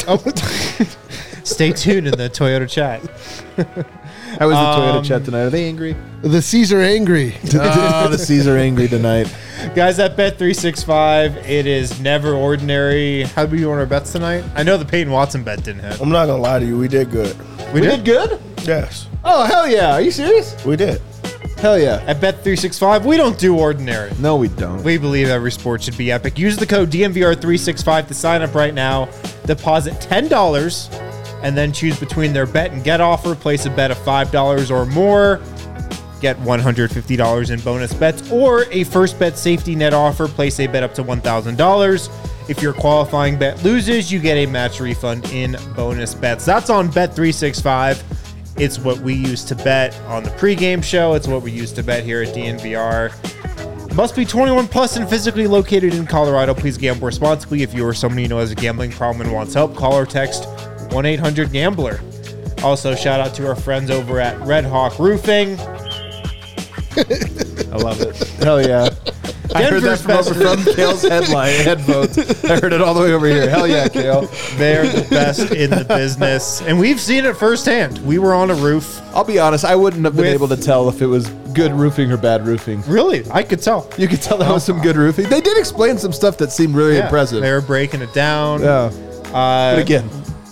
Oh. Stay tuned in the Toyota chat. How was the Um, Toyota chat tonight? Are they angry? The C's are angry. Oh, the C's are angry tonight. Guys, at Bet three sixty-five, it is never ordinary. How do we do on our bets tonight? I know the Peyton Watson bet didn't hit. I'm not gonna lie to you. We did good. We, did? good? Yes, Oh, hell yeah. Are you serious? we did. Hell yeah. At Bet three sixty-five, we don't do ordinary. No, we don't. We believe every sport should be epic. Use the code D M V R three sixty-five to sign up right now. Deposit ten dollars and then choose between their bet and get offer. Place a bet of five dollars or more. Get one hundred fifty dollars in bonus bets or a first bet safety net offer. Place a bet up to one thousand dollars. If your qualifying bet loses, you get a match refund in bonus bets. That's on Bet three sixty-five. It's what we use to bet on the pregame show. It's what we use to bet here at D N V R. Must be twenty-one plus and physically located in Colorado. Please gamble responsibly. If you or someone you know has a gambling problem and wants help, call or text one eight hundred gambler. Also, shout out to our friends over at Red Hawk Roofing. I love it. Hell yeah. I heard that Denver's from over best. from Kale's headline headphones. I heard it all the way over here. Hell yeah, Kale. They're the best in the business. And we've seen it firsthand. We were on a roof. I'll be honest, I wouldn't have been With- able to tell if it was good roofing or bad roofing. Really, I could tell. You could tell that was some good roofing. They did explain some stuff that seemed really Yeah, impressive. They were breaking it down. Yeah. Uh, But again,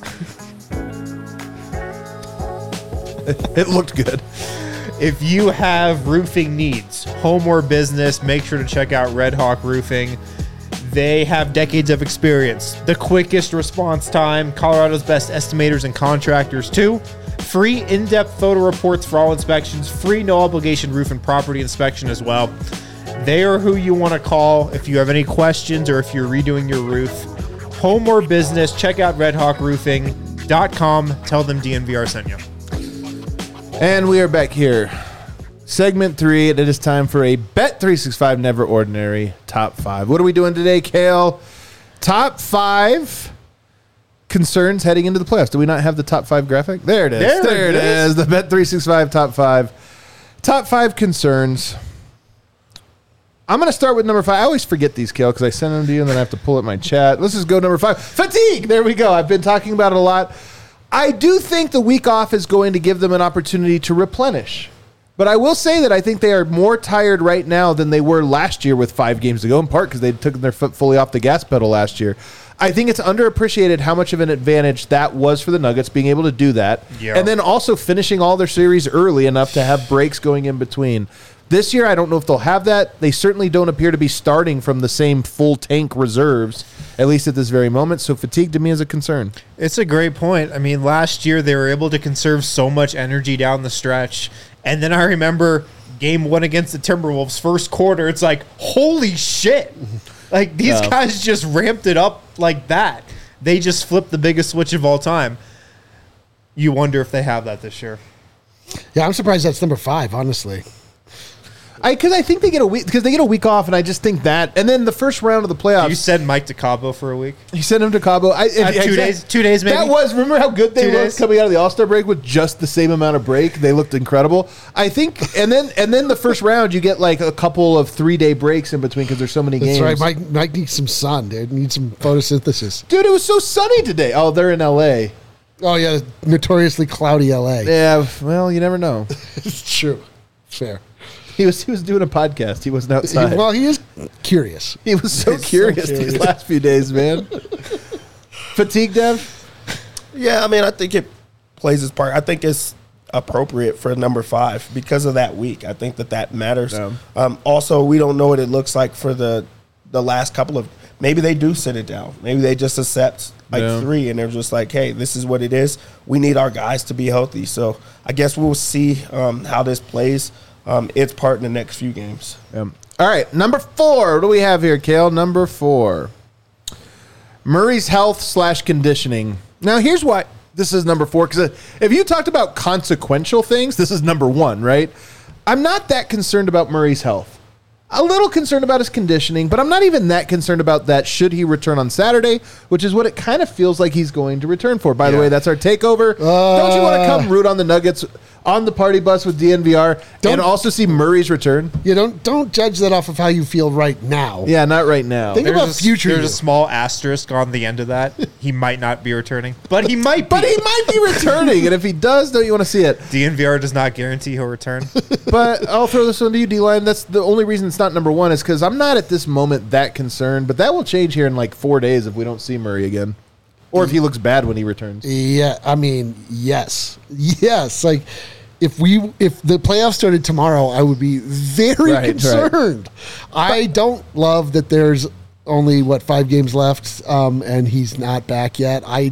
it looked good. If you have roofing needs, home or business, make sure to check out Red Hawk Roofing. They have decades of experience, the quickest response time, Colorado's best estimators and contractors too. Free in-depth photo reports for all inspections, free no-obligation roof and property inspection as well. They are who you want to call if you have any questions or if you're redoing your roof. Home or business, check out red hawk roofing dot com. Tell them D N V R sent you. And we are back here. Segment three, and it is time for a Bet three sixty-five Never Ordinary Top five. What are we doing today, Kale? Top five concerns heading into the playoffs. Do we not have the top five graphic? There it is. There There, it it is. is. The Bet three sixty-five Top five. Top five concerns. I'm going to start with number five. I always forget these, Kale, because I send them to you and then I have to pull up my chat. Let's just go number five. Fatigue. There we go. I've been talking about it a lot. I do think the week off is going to give them an opportunity to replenish. But I will say that I think they are more tired right now than they were last year with five games to go, in part because they took their foot fully off the gas pedal last year. I think it's underappreciated how much of an advantage that was for the Nuggets, being able to do that. Yeah. And then also finishing all their series early enough to have breaks going in between. This year, I don't know if they'll have that. They certainly don't appear to be starting from the same full tank reserves, at least at this very moment. So fatigue to me is a concern. It's a great point. I mean, last year they were able to conserve so much energy down the stretch. And then I remember game one against the Timberwolves, first quarter. It's like, holy shit. Like, these Yeah. guys just ramped it up like that. They just flipped the biggest switch of all time. You wonder if they have that this year. Yeah, I'm surprised that's number five, honestly. I because I think they get a week because they get a week off, and I just think that. And then the first round of the playoffs, You sent Mike to Cabo for a week? he sent him to Cabo. I, Uh, two days- two days maybe? That was remember how good they Two looked days? coming out of the All Star break with just the same amount of break. They looked incredible. I think, and then and then the first round, you get like a couple of three day breaks in between because there's so many That's games. right. Mike, Mike needs some sun, dude. Needs some photosynthesis. Dude, it was so sunny today. Oh, they're in L A. Oh, yeah. Notoriously cloudy L A. Yeah, well, you never know. It's true. Fair. He was he was doing a podcast. He wasn't He- outside. well, he is curious. He was so He's so curious curious. these last few days, man. Fatigue, Dev? Yeah, I mean, I think it plays its part. I think it's appropriate for number five because of that week. I think that that matters. Yeah. Um, also, we don't know what it looks like for the the last couple of. Maybe they do sit it down. Maybe they just accept like Yeah. three, and they're just like, "Hey, this is what it is. We need our guys to be healthy." So I guess we'll see um, how this plays. Um, its part in the next few games. Um, all right, number four. What do we have here, Kale? Number four. Murray's health slash conditioning. Now, here's why this is number four. Because if you talked about consequential things, this is number one, right? I'm not that concerned about Murray's health. A little concerned about his conditioning, but I'm not even that concerned about that should he return on Saturday, which is what it kind of feels like he's going to return for. By the Yeah. way, that's our takeover. Don't you want to come root on the Nuggets on the party bus with D N V R Don't- and also see Murray's return? You don't don't judge that off of how you feel right now. Yeah, not right now. Think There's about a, future There's you. a small asterisk on the end of that. He might not be returning, but he might be. But he might be returning, and if he does, don't you want to see it? D N V R does not guarantee he'll return. But I'll throw this one to you, D-Line. That's the only reason it's not number one is because I'm not at this moment that concerned, but that will change here in like four days if we don't see Murray again. Or if he looks bad when he returns. Yeah, I mean, yes, yes. Like, if we if the playoffs started tomorrow, I would be very Right, right. concerned. I don't love that there's only what five games left, um, and he's not back yet. I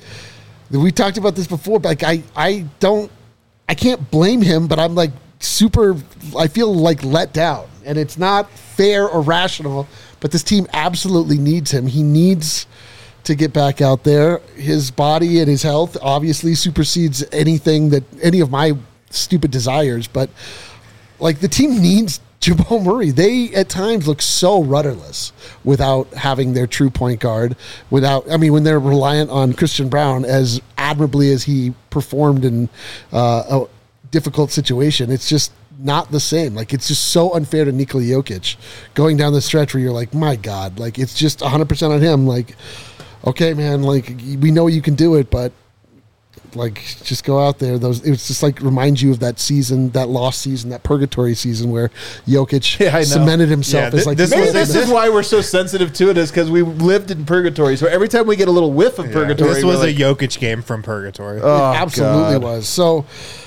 we talked about this before, but like I I don't I can't blame him, but I'm like super. I feel like let down, and it's not fair or rational. But this team absolutely needs him. He needs to get back out there. His body and his health obviously supersedes anything that any of my stupid desires. But like the team needs Jamal Murray, they at times look so rudderless without having their true point guard. Without, I mean, when they're reliant on Christian Brown as admirably as he performed in uh, a difficult situation, it's just not the same. Like, it's just so unfair to Nikola Jokic going down the stretch where you're like, my God, like, it's just one hundred percent on him. Like, okay, man, like, we know you can do it, but like, just go out there. Those, it's just like reminds you of that season, that lost season, that purgatory season where Jokic Yeah, I know. cemented himself Yeah, as like this Maybe was- this is why we're so sensitive to it, is because we lived in purgatory. So every time we get a little whiff of purgatory, This we're was like, a Jokic game from purgatory. Oh, it absolutely God. was. So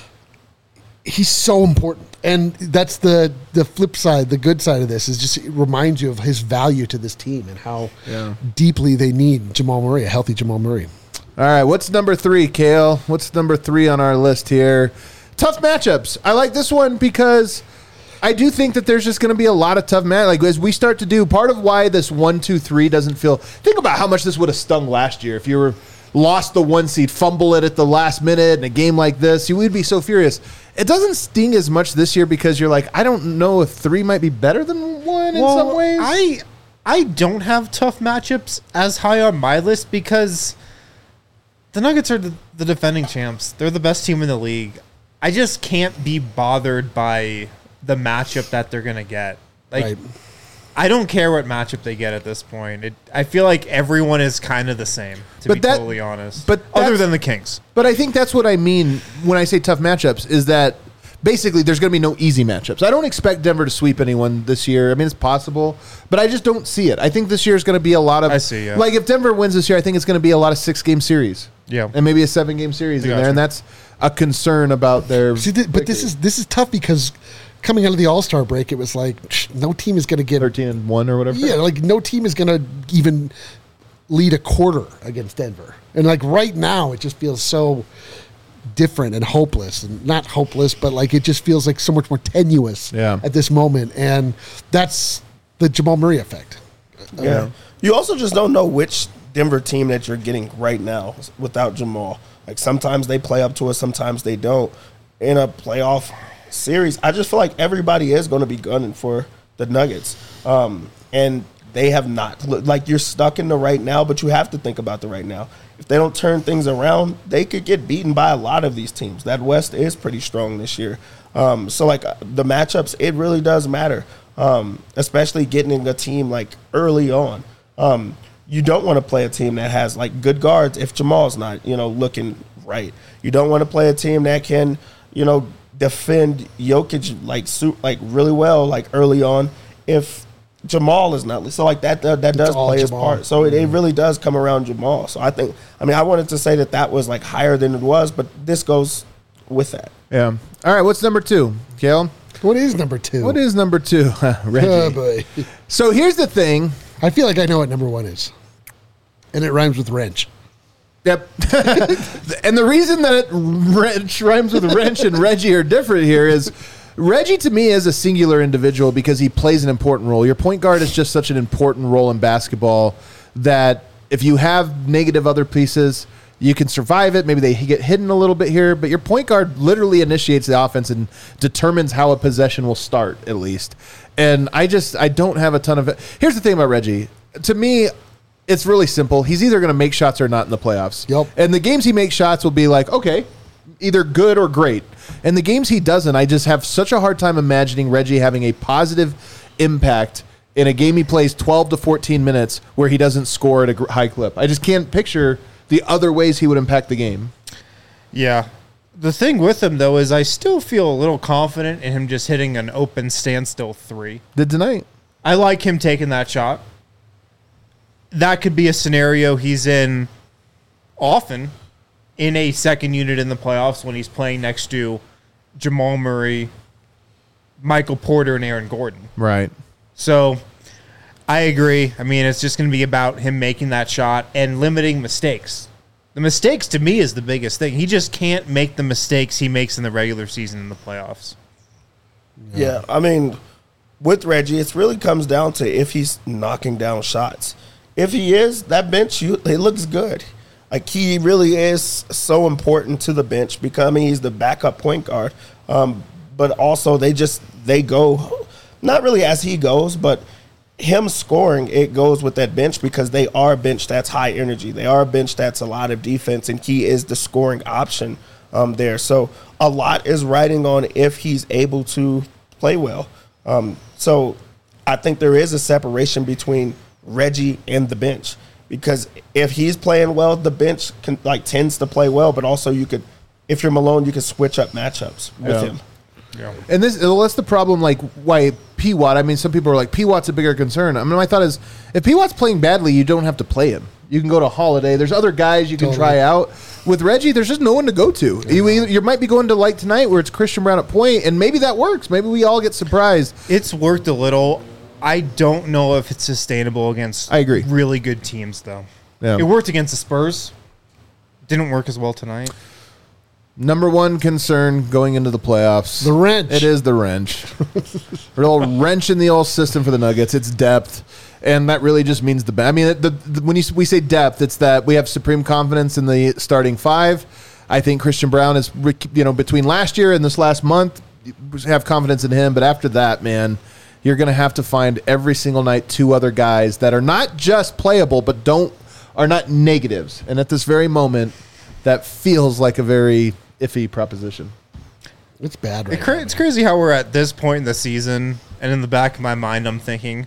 he's so important. And that's the the flip side, the good side of this is just it reminds you of his value to this team and how Yeah. deeply they need Jamal Murray, a healthy Jamal Murray. All right, what's number three, Kale? What's number three on our list here? Tough matchups. I like this one because I do think that there's just going to be a lot of tough matchups. Like, as we start to do, part of why this one, two, three doesn't feel. Think about how much this would have stung last year if you were lost the one seed, fumble it at the last minute in a game like this. You would be so furious. It doesn't sting as much this year because you're like, I don't know if three might be better than one in some ways. I I don't have tough matchups as high on my list because the Nuggets are the, the defending champs. They're the best team in the league. I just can't be bothered by the matchup that they're gonna get. Like, Right. I don't care what matchup they get at this point. It, I feel like everyone is kind of the same, to But be that- totally honest. but other that's- than the Kings. But I think that's what I mean when I say tough matchups, is that basically there's going to be no easy matchups. I don't expect Denver to sweep anyone this year. I mean, it's possible, but I just don't see it. I think this year is going to be a lot of. I see, yeah. Like, if Denver wins this year, I think it's going to be a lot of six-game series. Yeah. And maybe a seven-game series in Gotcha. there, and that's a concern about their. See, th- but this is this is tough because coming out of the All-Star break, it was like psh, no team is going to get thirteen and one or whatever. Yeah, like no team is going to even lead a quarter against Denver. And like right now, it just feels so different and hopeless. And not hopeless, but like it just feels like so much more tenuous Yeah. at this moment. And that's the Jamal Murray effect. Yeah. You also just don't know which Denver team that you're getting right now without Jamal. Like, sometimes they play up to us, sometimes they don't. In a playoff series, I just feel like everybody is going to be gunning for the Nuggets. Um, and they have not. Like, you're stuck in the right now, but you have to think about the right now. If they don't turn things around, they could get beaten by a lot of these teams. That West is pretty strong this year. Um, so, like, the matchups, it really does matter, um, especially getting a team, like, early on. Um, you don't want to play a team that has, like, good guards if Jamal's not, you know, looking right. You don't want to play a team that can, you know, defend Jokic, like, su- like really well, like, early on if Jamal is not. So, like, that that, that does all play his Jamal. part. So, it, it really does come around Jamal. So, I think, I mean, I wanted to say that that was, like, higher than it was, but this goes with that. Yeah. All right, what's number two, Kale? What is number two? What is number two? Reggie. Oh, boy. So here's the thing. I feel like I know what number one is. And it rhymes with wrench. Yep. And the reason that it wrench rhymes with wrench and Reggie are different here is Reggie to me is a singular individual because he plays an important role. Your point guard is just such an important role in basketball that if you have negative other pieces, you can survive it. Maybe they get hidden a little bit here, but your point guard literally initiates the offense and determines how a possession will start, at least. And I just, I don't have a ton of it. Here's the thing about Reggie. To me, it's really simple. He's either going to make shots or not in the playoffs. Yep. And the games he makes shots will be like, okay, either good or great. And the games he doesn't, I just have such a hard time imagining Reggie having a positive impact in a game he plays twelve to fourteen minutes where he doesn't score at a gr- high clip. I just can't picture the other ways he would impact the game. Yeah. The thing with him, though, is I still feel a little confident in him just hitting an open standstill three. Did tonight. I like him taking that shot. That could be a scenario he's in often in a second unit in the playoffs when he's playing next to Jamal Murray, Michael Porter, and Aaron Gordon. Right. So I agree. I mean, it's just going to be about him making that shot and limiting mistakes. The mistakes, to me, is the biggest thing. He just can't make the mistakes he makes in the regular season in the playoffs. Yeah, I mean, with Reggie, it really comes down to if he's knocking down shots. If he is, that bench, you, it looks good. Like, he really is so important to the bench because, I mean, he's the backup point guard. Um, but also, they just, they go, not really as he goes, but him scoring, it goes with that bench because they are a bench that's high energy. They are a bench that's a lot of defense, and he is the scoring option um, there. So a lot is riding on if he's able to play well. Um, so I think there is a separation between Reggie and the bench, because if he's playing well, the bench can, like tends to play well, but also you could, if you're Malone, you can switch up matchups with Yeah. him. Yeah. And this well, that's the problem. Like why P Watt? I mean, some people are like P Watt's a bigger concern. I mean, my thought is if P Watt's playing badly, you don't have to play him. You can go to Holiday. There's other guys you can Totally. try out. With Reggie, there's just no one to go to. You, either- you might be going to like tonight where it's Christian Brown at point, and maybe that works. Maybe we all get surprised. It's worked a little. I don't know if it's sustainable against I agree. really good teams, though. Yeah. It worked against the Spurs. Didn't work as well tonight. Number one concern going into the playoffs. The wrench. It is the wrench. A little wrench in the old system for the Nuggets. It's depth. And that really just means the ba- I mean, the, the, when you, we say depth, it's that we have supreme confidence in the starting five. I think Christian Brown is, you know, between last year and this last month, have confidence in him. But after that, man, you're going to have to find every single night two other guys that are not just playable, but don't are not negatives. And at this very moment, that feels like a very iffy proposition. It's bad right It cra- now, it's man. crazy how we're at this point in the season, and in the back of my mind, I'm thinking,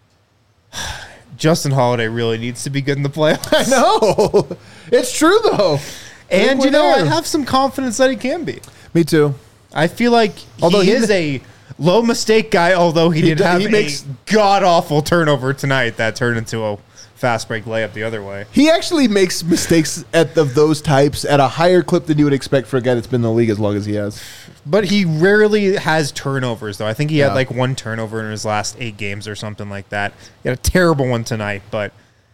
Justin Holiday really needs to be good in the playoffs. I know. It's true, though. And, we're you know, I there. have some confidence that he can be. Me too. I feel like Although he, he is ma- a low mistake guy, although he, He did do- have he a makes- god-awful turnover tonight that turned into a fast break layup the other way. He actually makes mistakes at of those types at a higher clip than you would expect for a guy that's been in the league as long as he has. But he rarely has turnovers, though. I think he Yeah. had like one turnover in his last eight games or something like that. He had a terrible one tonight, but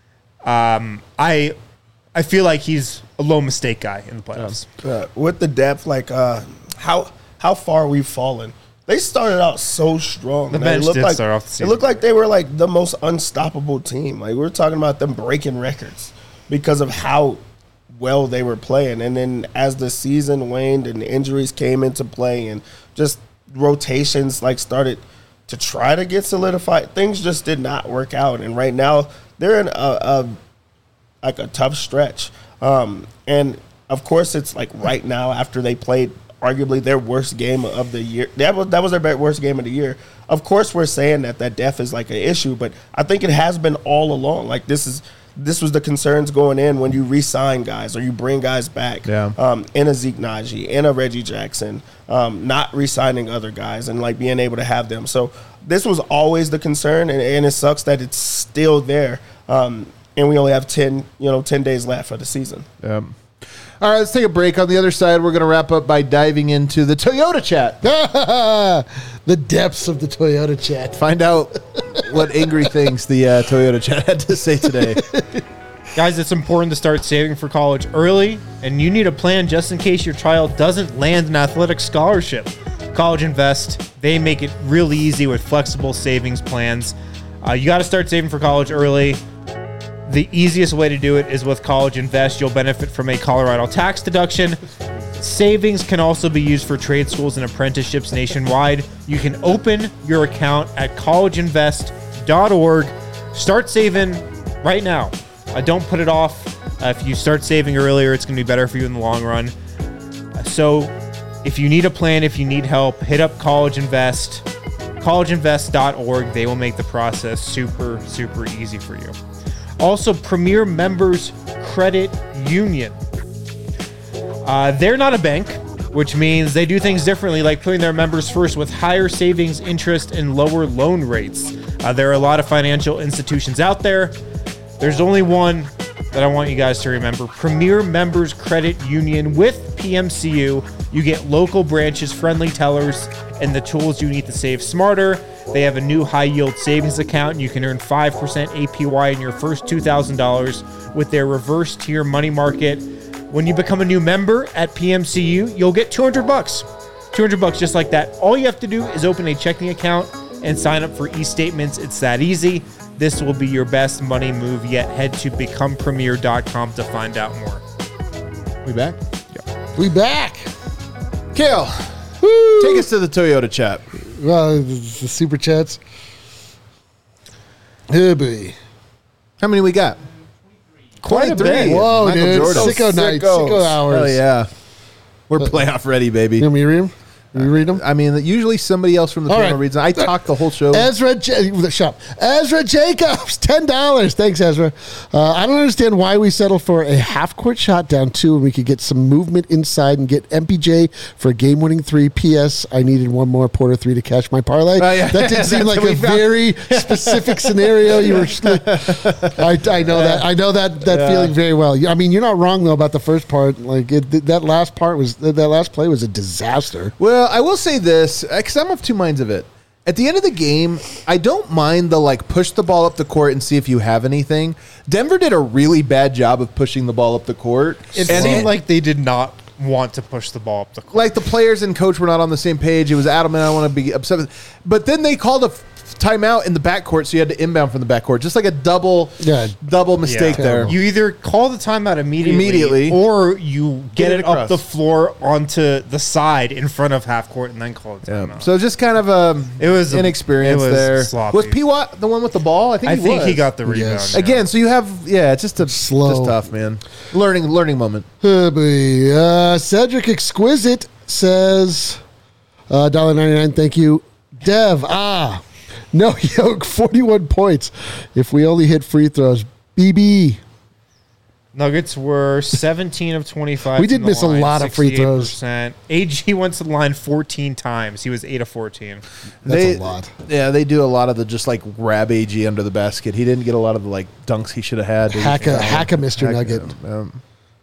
um, I I feel like he's a low mistake guy in the playoffs. Uh, with the depth, like uh, how how far we've fallen. They started out so strong. The man. bench it looked did like, start off the It season. looked like they were like the most unstoppable team. Like we were talking about them breaking records because of how well they were playing. And then as the season waned and injuries came into play and just rotations like started to try to get solidified, things just did not work out. And right now they're in a, a like a tough stretch. Um, and of course it's like right now after they played arguably their worst game of the year. That was that was their be- worst game of the year. Of course we're saying that that depth is like an issue, but I think it has been all along. Like this is this was the concerns going in when you re-sign guys or you bring guys back. Yeah. Um, in a Zeke Naji, in a Reggie Jackson, um, not re-signing other guys and like being able to have them. So this was always the concern, and, and it sucks that it's still there. Um, and we only have ten, you know, ten days left for the season. Um, all right, let's take a break. On the other side, we're going to wrap up by diving into the Toyota chat. The depths of the Toyota chat. Find out what angry things the uh, Toyota chat had to say today. Guys, it's important to start saving for college early, and you need a plan just in case your child doesn't land an athletic scholarship. College Invest, they make it really easy with flexible savings plans. Uh, you got to start saving for college early. The easiest way to do it is with College Invest. You'll benefit from a Colorado tax deduction. Savings can also be used for trade schools and apprenticeships nationwide. You can open your account at college invest dot org. Start saving right now. Uh, don't put it off. Uh, if you start saving earlier, it's going to be better for you in the long run. Uh, so if you need a plan, if you need help, hit up College Invest, college invest dot org. They will make the process super, super easy for you. Also, Premier Members Credit Union. Uh, they're not a bank, which means they do things differently, like putting their members first with higher savings, interest, and lower loan rates. Uh, there are a lot of financial institutions out there. There's only one that I want you guys to remember. Premier Members Credit Union with P M C U. You get local branches, friendly tellers, and the tools you need to save smarter. They have a new high-yield savings account. You can earn five percent A P Y in your first two thousand dollars with their reverse tier money market. When you become a new member at P M C U, you'll get two hundred bucks. two hundred bucks just like that. All you have to do is open a checking account and sign up for e-statements. It's that easy. This will be your best money move yet. Head to become premier dot com to find out more. We back? We back. Kale, take us to the Toyota chat. Well, the, the super chats. Oh, boy. How many we got? Quite a bit. twenty-three. Whoa, Michael dude. Jordan. Sicko night. Sickos. Sicko hours. Hell yeah. We're playoff ready, baby. You want me to read them? You read them? I mean, usually somebody else from the All panel right. reads them. I talk the whole show. Ezra, J- the shop. Ezra Jacobs, ten dollars. Thanks, Ezra. Uh, I don't understand why we settle for a half court shot down two when we could get some movement inside and get M P J for a game winning three. P S. I needed one more Porter three to catch my parlay. Oh, yeah. That did seem That's like what a we found. very specific scenario. You were, I, I know that. I know that that Yeah. feeling very well. I mean, you're not wrong though about the first part. Like it, that last part was that last play was a disaster. Well, I will say this, because I'm of two minds of it. At the end of the game, I don't mind the like push the ball up the court and see if you have anything. Denver did a really bad job of pushing the ball up the court. It and seemed it- like they did not want to push the ball up the court. like the players and coach were not on the same page. It was adamant. I don't want to be upset with. But then they called a f- timeout in the backcourt, so you had to inbound from the backcourt. Just like a double, Yeah. double mistake Yeah. there. You either call the timeout immediately, Immediately. or you get, Get it it, up across. the floor onto the side in front of half court and then call it Yeah. timeout. So just kind of um, It was a- inexperience it was there. sloppy. Was P. Watt the one with the ball? I think I he think was. he got the rebound. Yes. yeah. Again, so you have yeah, it's just a Slow. just tough, man. Learning learning moment. Oh, boy. Uh, Cedric Exquisite says, uh, one dollar ninety-nine, thank you. Dev, ah, no yoke, forty-one points. If we only hit free throws. B B, Nuggets were seventeen of twenty-five. We did from the miss a line, lot of free throws. sixty-eight percent. A G went to the line fourteen times. He was eight of fourteen. that's They- a lot. Yeah, they do a lot of the just like grab A G under the basket. He didn't get a lot of the like dunks he should have had. Hack a, hack a Mister Hack- Nugget. um,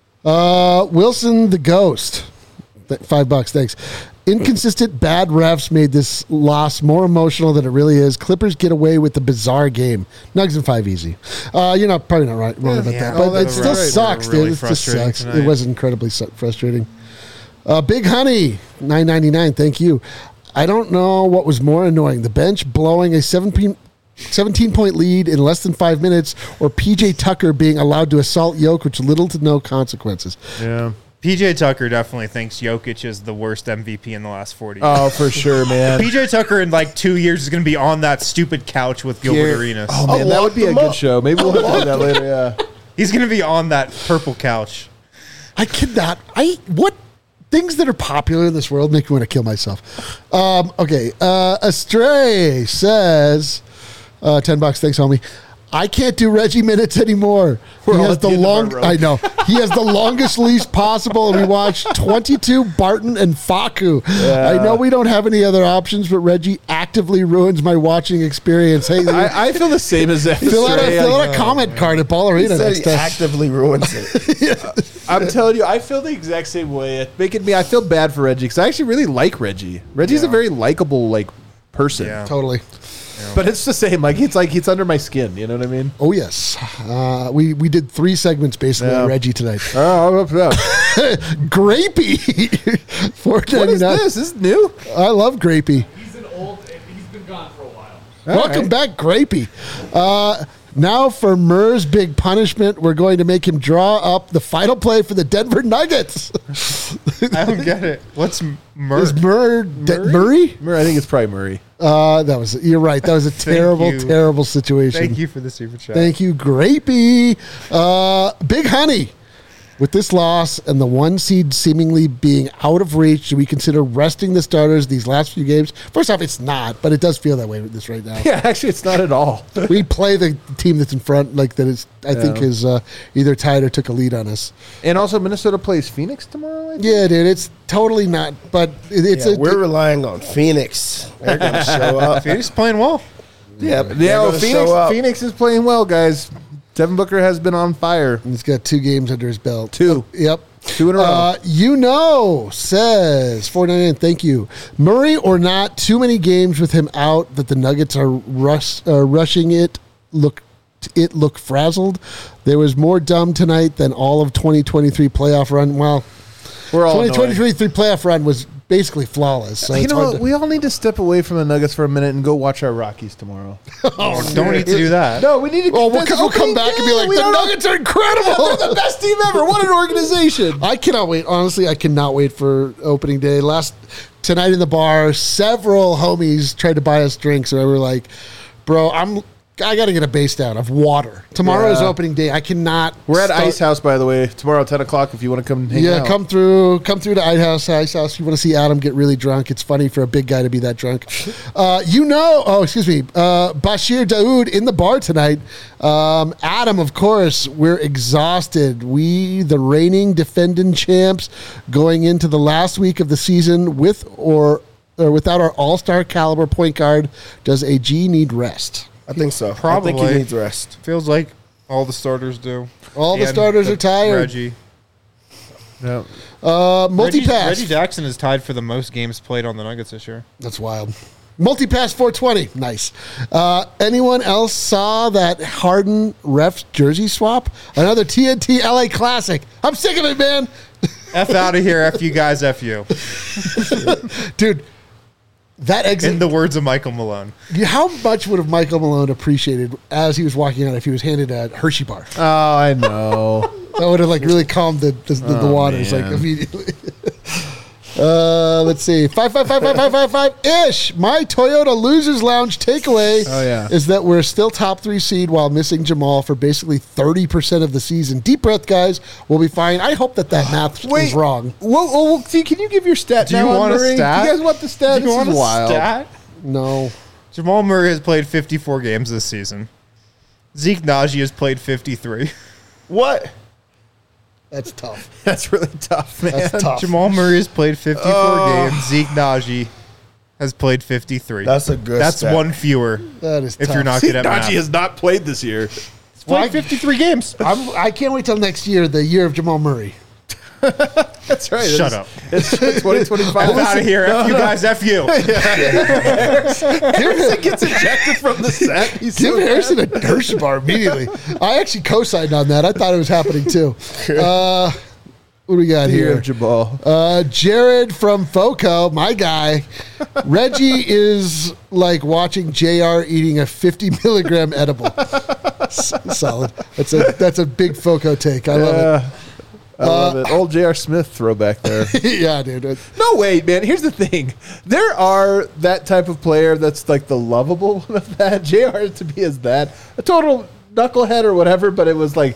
Uh, Wilson the Ghost, Th- five bucks, thanks. Inconsistent bad refs made this loss more emotional than it really is. Clippers get away with the bizarre game. Nugs and five easy. Uh, you're not probably not right, wrong about Yeah, that, no, but it that's still right. sucks, Really dude. It just frustrating sucks. It tonight. was incredibly su- frustrating. Uh, Big Honey, nine ninety-nine. Thank you. I don't know what was more annoying: the bench blowing a seventeen. seventeen point lead in less than five minutes, or P J Tucker being allowed to assault Jokic with little to no consequences. yeah. P J Tucker definitely thinks Jokic is the worst M V P in the last forty years. Oh, for sure, man. P J Tucker in like two years is going to be on that stupid couch with Gilbert Here- Arenas. Oh man, that lock would be a them good up. show. Maybe we'll have to do that later. Yeah. He's going to be on that purple couch. I cannot. I what things that are popular in this world make me want to kill myself. Um, okay, uh, Astray says, uh, ten bucks. Thanks, homie. I can't do Reggie minutes anymore. We're he all has at the the end of our long. rope. I know he has the longest leash possible, and we watched twenty-two Barton and Faku. I know we don't have any other options, but Reggie actively ruins my watching experience. Hey, I, I feel the same as that. fill out a, Stray. fill Like, out a comment card at Ball Arena. He said next he time. actively ruins it. I'm telling you, I feel the exact same way. It making me, I feel bad for Reggie because I actually really like Reggie. Reggie's a Yeah. very likable like person. Yeah. Totally. But it's the same. Like it's like it's under my skin. You know what I mean? Oh yes, uh, we we did three segments basically Yeah. on Reggie tonight. Oh, yeah. Grapey, four What ninety is nine. this? This is new. I love Grapey. He's an old. He's been gone for a while. Welcome right. back, Grapey. Uh, now for Murr's big punishment, we're going to make him draw up the final play for the Denver Nuggets. I don't get it. What's Murray? Is Murr De- Murray? Murray? I think it's probably Murray. Uh, that was you're right. That was a terrible, you. terrible situation. Thank you for the super chat. Thank you, Grapey. Uh, Big Honey. With this loss and the one seed seemingly being out of reach, do we consider resting the starters these last few games? First off, it's not, but it does feel that way with this right now. Yeah, actually, it's not at all. We play the team that's in front, like that is, I think, Yeah. is uh, either tied or took a lead on us. And also, Minnesota plays Phoenix tomorrow. I think? Yeah, dude, it's totally not, but it, it's Yeah, a. we're relying on Phoenix. They're going to show up. Phoenix playing well. Yeah, they're Yeah, well, gonna Phoenix, show up. Phoenix is playing well, guys. Devin Booker has been on fire. He's got two games under his belt. Two. Yep. Two in a row. Uh, you know, says four ninety-nine. Thank you. Murray or not, too many games with him out that the Nuggets are rush, uh, rushing it. Look, it look frazzled. There was more dumb tonight than all of twenty twenty-three playoff run. Well, We're all twenty annoyed. twenty-three playoff run was basically flawless. So You it's know hard what? to, We all need to step away from the Nuggets for a minute and go watch our Rockies tomorrow. Oh, don't need to do that. No, we need to. Oh, we'll, that's co- we'll come opening back and be day. like, We the don't- Nuggets are incredible. They're the best team ever. What an organization. I cannot wait. Honestly, I cannot wait for opening day. Last tonight in the bar, several homies tried to buy us drinks, and we were like, "Bro, I'm I got to get a base down of water. Tomorrow is Yeah. opening day. I cannot." We're at start- Ice House, by the way, tomorrow ten o'clock. If you want to come, hang Yeah, out. come through, come through to Ice House. Ice House. If you want to see Adam get really drunk, it's funny for a big guy to be that drunk. Uh, you know, oh, excuse me, uh, Bashir Daoud in the bar tonight. Um, Adam, of course, we're exhausted. We, the reigning defending champs, going into the last week of the season with or or without our all-star caliber point guard. Does A G need rest? I think so. I Probably. think he needs rest. Feels like all the starters do. All the And starters are tired. Reggie. Yeah. Uh, multi Reggie, pass. Reggie Jackson is tied for the most games played on the Nuggets this year. That's wild. Multi-pass four twenty. Nice. Uh, anyone else saw that Harden refs jersey swap? Another T N T L A classic. I'm sick of it, man. F out of here, F you guys, F you. Dude, that exit. In the words of Michael Malone. How much would have Michael Malone appreciated as he was walking out if he was handed a Hershey bar? Oh, I know. That would have like really calmed the the, the, the Oh, waters like man. immediately. Uh, let's see, five five five five five five five ish. My Toyota Losers Lounge takeaway Oh, yeah. is that we're still top three seed while missing Jamal for basically thirty percent of the season. Deep breath, guys. We'll be fine. I hope that that math is wrong. Whoa, whoa, whoa, see, can you give your stat Do now you on want a Murray? stat? Do you guys want the stat? Do you This want is a wild. stat? No, Jamal Murray has played fifty-four games this season. Zeke Naji has played fifty-three. What? that's tough. That's really tough, man. That's tough. Jamal Murray has played fifty-four Oh. games. Zeke Naji has played fifty-three. That's a good That's stat. one fewer That is if tough. you're not See, good at math. Najee has not played this year. He's played fifty-three games. I'm, I can't wait till next year, the year of Jamal Murray. That's right. Shut It's- up. It's twenty twenty-five. F out of here, F you guys, F you. Harrison gets ejected from the set. He's Give so Harrison a Hershey bar immediately. I actually co-signed on that. I thought it was happening too. Uh, what do we got Here here? of Jabal. Uh, Jared from Foco, my guy. Reggie is like watching J R eating a fifty milligram edible. S- solid. That's a that's a big Foco take. I love Yeah. I love it. Old J R. Smith throwback there. it. yeah, dude. No, wait, man. Here's the thing. There are that type of player that's like the lovable one of that. J R to me is that. A total knucklehead or whatever, but it was like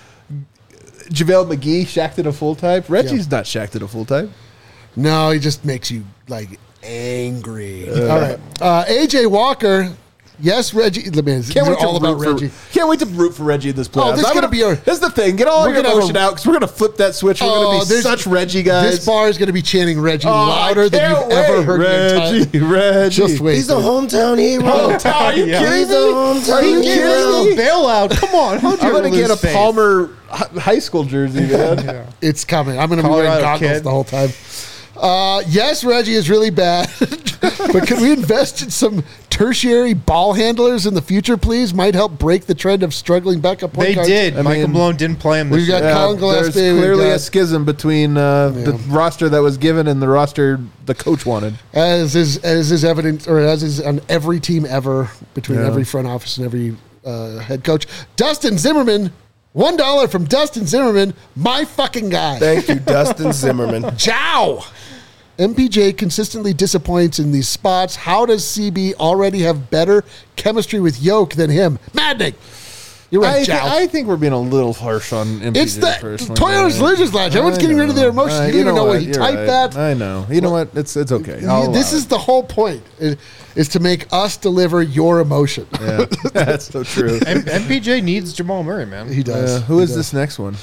JaVale McGee, Shaq did a full type. Reggie's not Shaq did a full type. No, he just makes you like angry. All right. Uh, A J Walker. Yes, Reggie. Man, these Can't are wait to all root about for, Reggie. Can't wait to root for Reggie in this playoffs. Oh, this is I'm gonna be our- This is the thing. Get all We're your gonna have emotion a- out because we're gonna flip that switch. We're Oh, gonna be there's- such Reggie guys. This bar is going to be chanting Reggie Oh, I louder than can't you've ever wait. heard in your Reggie, entire- Reggie. Just wait. He's a dude. hometown hero. Are you Yeah. kidding He's me? a hometown Are you hero. kidding me? Bailout. Come on. How'd you I'm gonna ever get lose a faith? Palmer hi- high school jersey, man. It's coming. I'm going to be wearing Colorado goggles kid. the whole time. Uh, yes, Reggie is really bad, but can we invest in some tertiary ball handlers in the future, please? Might help break the trend of struggling backup point They guards. did. I Michael mean, Malone didn't play him this we've got year. Yeah, Colin Gillespie, there's we've clearly got- a schism between uh, the Yeah. roster that was given and the roster the coach wanted. As is as is evident, or as is on every team ever, between Yeah. every front office and every uh, head coach. Dustin Zimmerman, one dollar from Dustin Zimmerman, my fucking guy. Thank you, Dustin Zimmerman. Ciao. M P J consistently disappoints in these spots. How does C B already have better chemistry with Yoke than him? Maddening. You're right, I, thi- Ciao. I think we're being a little harsh on M P J It's the personally. Toyota's man. Losers Lounge. Everyone's I getting rid of know. their emotions. Uh, you don't even know what he You're typed right. that. I know. You know what? It's it's okay. I'll this allow is the whole point, is, is to make us deliver your emotion. it. Yeah, that's so true. M- MPJ needs Jamal Murray, man. He does. Uh, who He is does. this next one?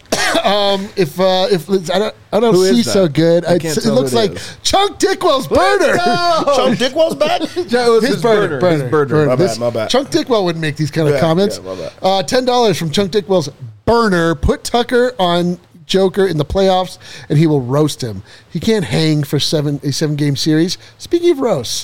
If uh, if I don't, I don't Who is see that? so good. I It's- can't it tell looks who it like is. Chunk Dickwell's burner. Chunk Dickwell's back? That was His, his burner, burner. burner, His burner. burner. My bad, This- my bad. Chunk Dickwell wouldn't make these kind of Yeah, comments. yeah, my bad. Uh, Ten dollars from Chunk Dickwell's burner. Put Tucker on Joker in the playoffs, and he will roast him. He can't hang for seven a seven game series. Speaking of roasts,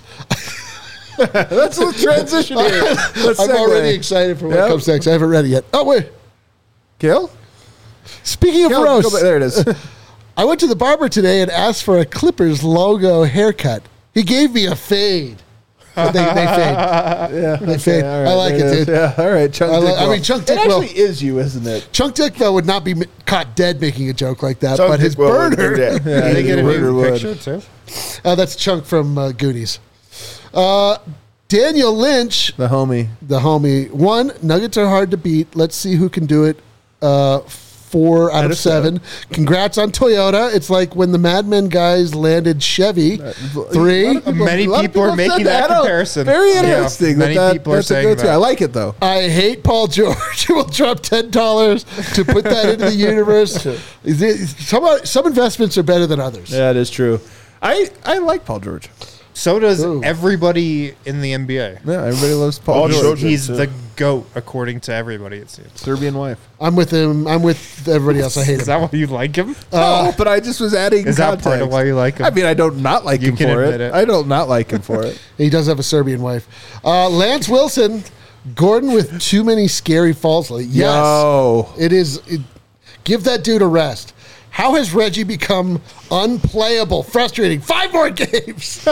Let's let's transition here. Let's I'm segue. already excited for what Yep. comes next. I haven't read it yet. Oh wait, Kill? speaking of Kill, roasts, go back- there it is. I went to the barber today and asked for a Clippers logo haircut. He gave me a fade. But they, they fade. Yeah, They fade. all right, I like there it, is. dude. Yeah, all right. Chunk I, li- I Dickwell. mean, Chunk It Dickwell. actually is you, isn't it? Chunk Dickwell would not be m- caught dead making a joke like that, Chunk but his Dickwell would do burner. that. Yeah, Did they get a Wood or new wood. picture too? Uh, that's Chunk from uh, Goonies. Uh, Daniel Lynch, The homie. the homie. One, Nuggets are hard to beat. Let's see who can do it. Uh, four out, of seven. Congrats on Toyota. It's like when the Mad Men guys landed Chevy. Three. Many a lot of people are said making that I don't- comparison. Very Yeah, interesting. many that, people are that's a saying go-to. that. I like it though. I hate Paul George. Will drop ten dollars to put that into the universe. Is it- Some some investments are better than others. Yeah, it is true. I I like Paul George. So does Ooh. everybody in the N B A. Yeah, everybody loves Paul All George. George. He's too. the GOAT, according to everybody, it seems. Serbian wife. I'm with him. I'm with everybody else. I hate Is him. that why you like him? oh, but I just was adding. Is that context. part of why you like him? I mean, I don't not like You him can for it. admit it. I don't not like him for it. He does have a Serbian wife. Uh, Lance Wilson, Gordon with too many scary falls. Yes, Yo. it is. It, give that dude a rest. How has Reggie become unplayable, frustrating? Five more games.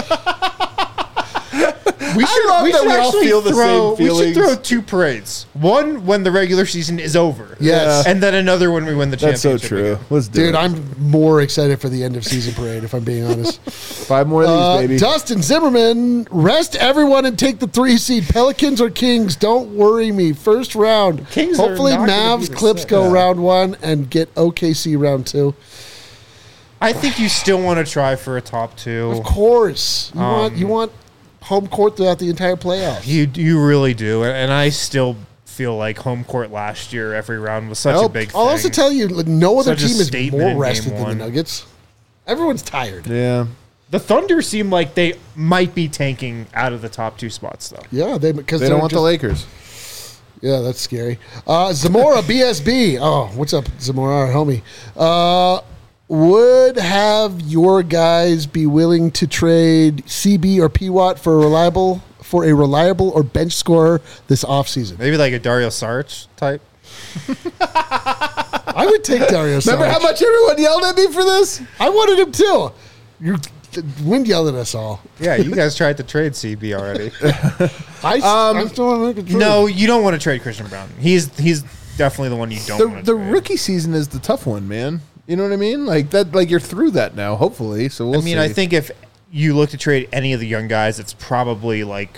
We should, love we that should we all actually feel the throw, same We should feelings. throw two parades. One when the regular season is over. Yes. And then another when we win the That's so championship. true. again. Let's do Dude, it. I'm more excited for the end of season parade, if I'm being honest. Five more of these, Uh, baby. Dustin Zimmerman, rest everyone and take the three seed. Pelicans or Kings, don't worry me. First round. Kings are Hopefully not gonna be Mavs the Clips same. go Yeah. round one and get O K C round two. I think you still want to try for a top two. Of course. You want Um, you want home court throughout the entire playoffs. You you really do, and and I still feel like home court last year, every round was such a Nope. big thing. I'll also tell you, like, no other Such a team is statement more in rested game than one. the Nuggets. Everyone's tired. Yeah. The Thunder seem like they might be tanking out of the top two spots, though. Yeah, they because They don't want the Lakers. Yeah, that's scary. Uh, Zamora B S B. Oh, what's up, Zamora, our homie? Uh, would have your guys be willing to trade C B or P Watt for a reliable for a reliable or bench scorer this offseason? Maybe like a Dario Saric type. I would take Dario Remember Saric. how much everyone yelled at me for this? I wanted him too. You wind yelled at us all. Yeah, you guys tried to trade C B already. I, Um, I still want to make a trade. No, you don't want to trade Christian Brown. He's he's definitely the one you don't The, want to the trade. rookie season is the tough one, man. You know what I mean? Like that. Like you're through that now, hopefully. So we'll I mean, see. I think if you look to trade any of the young guys, it's probably like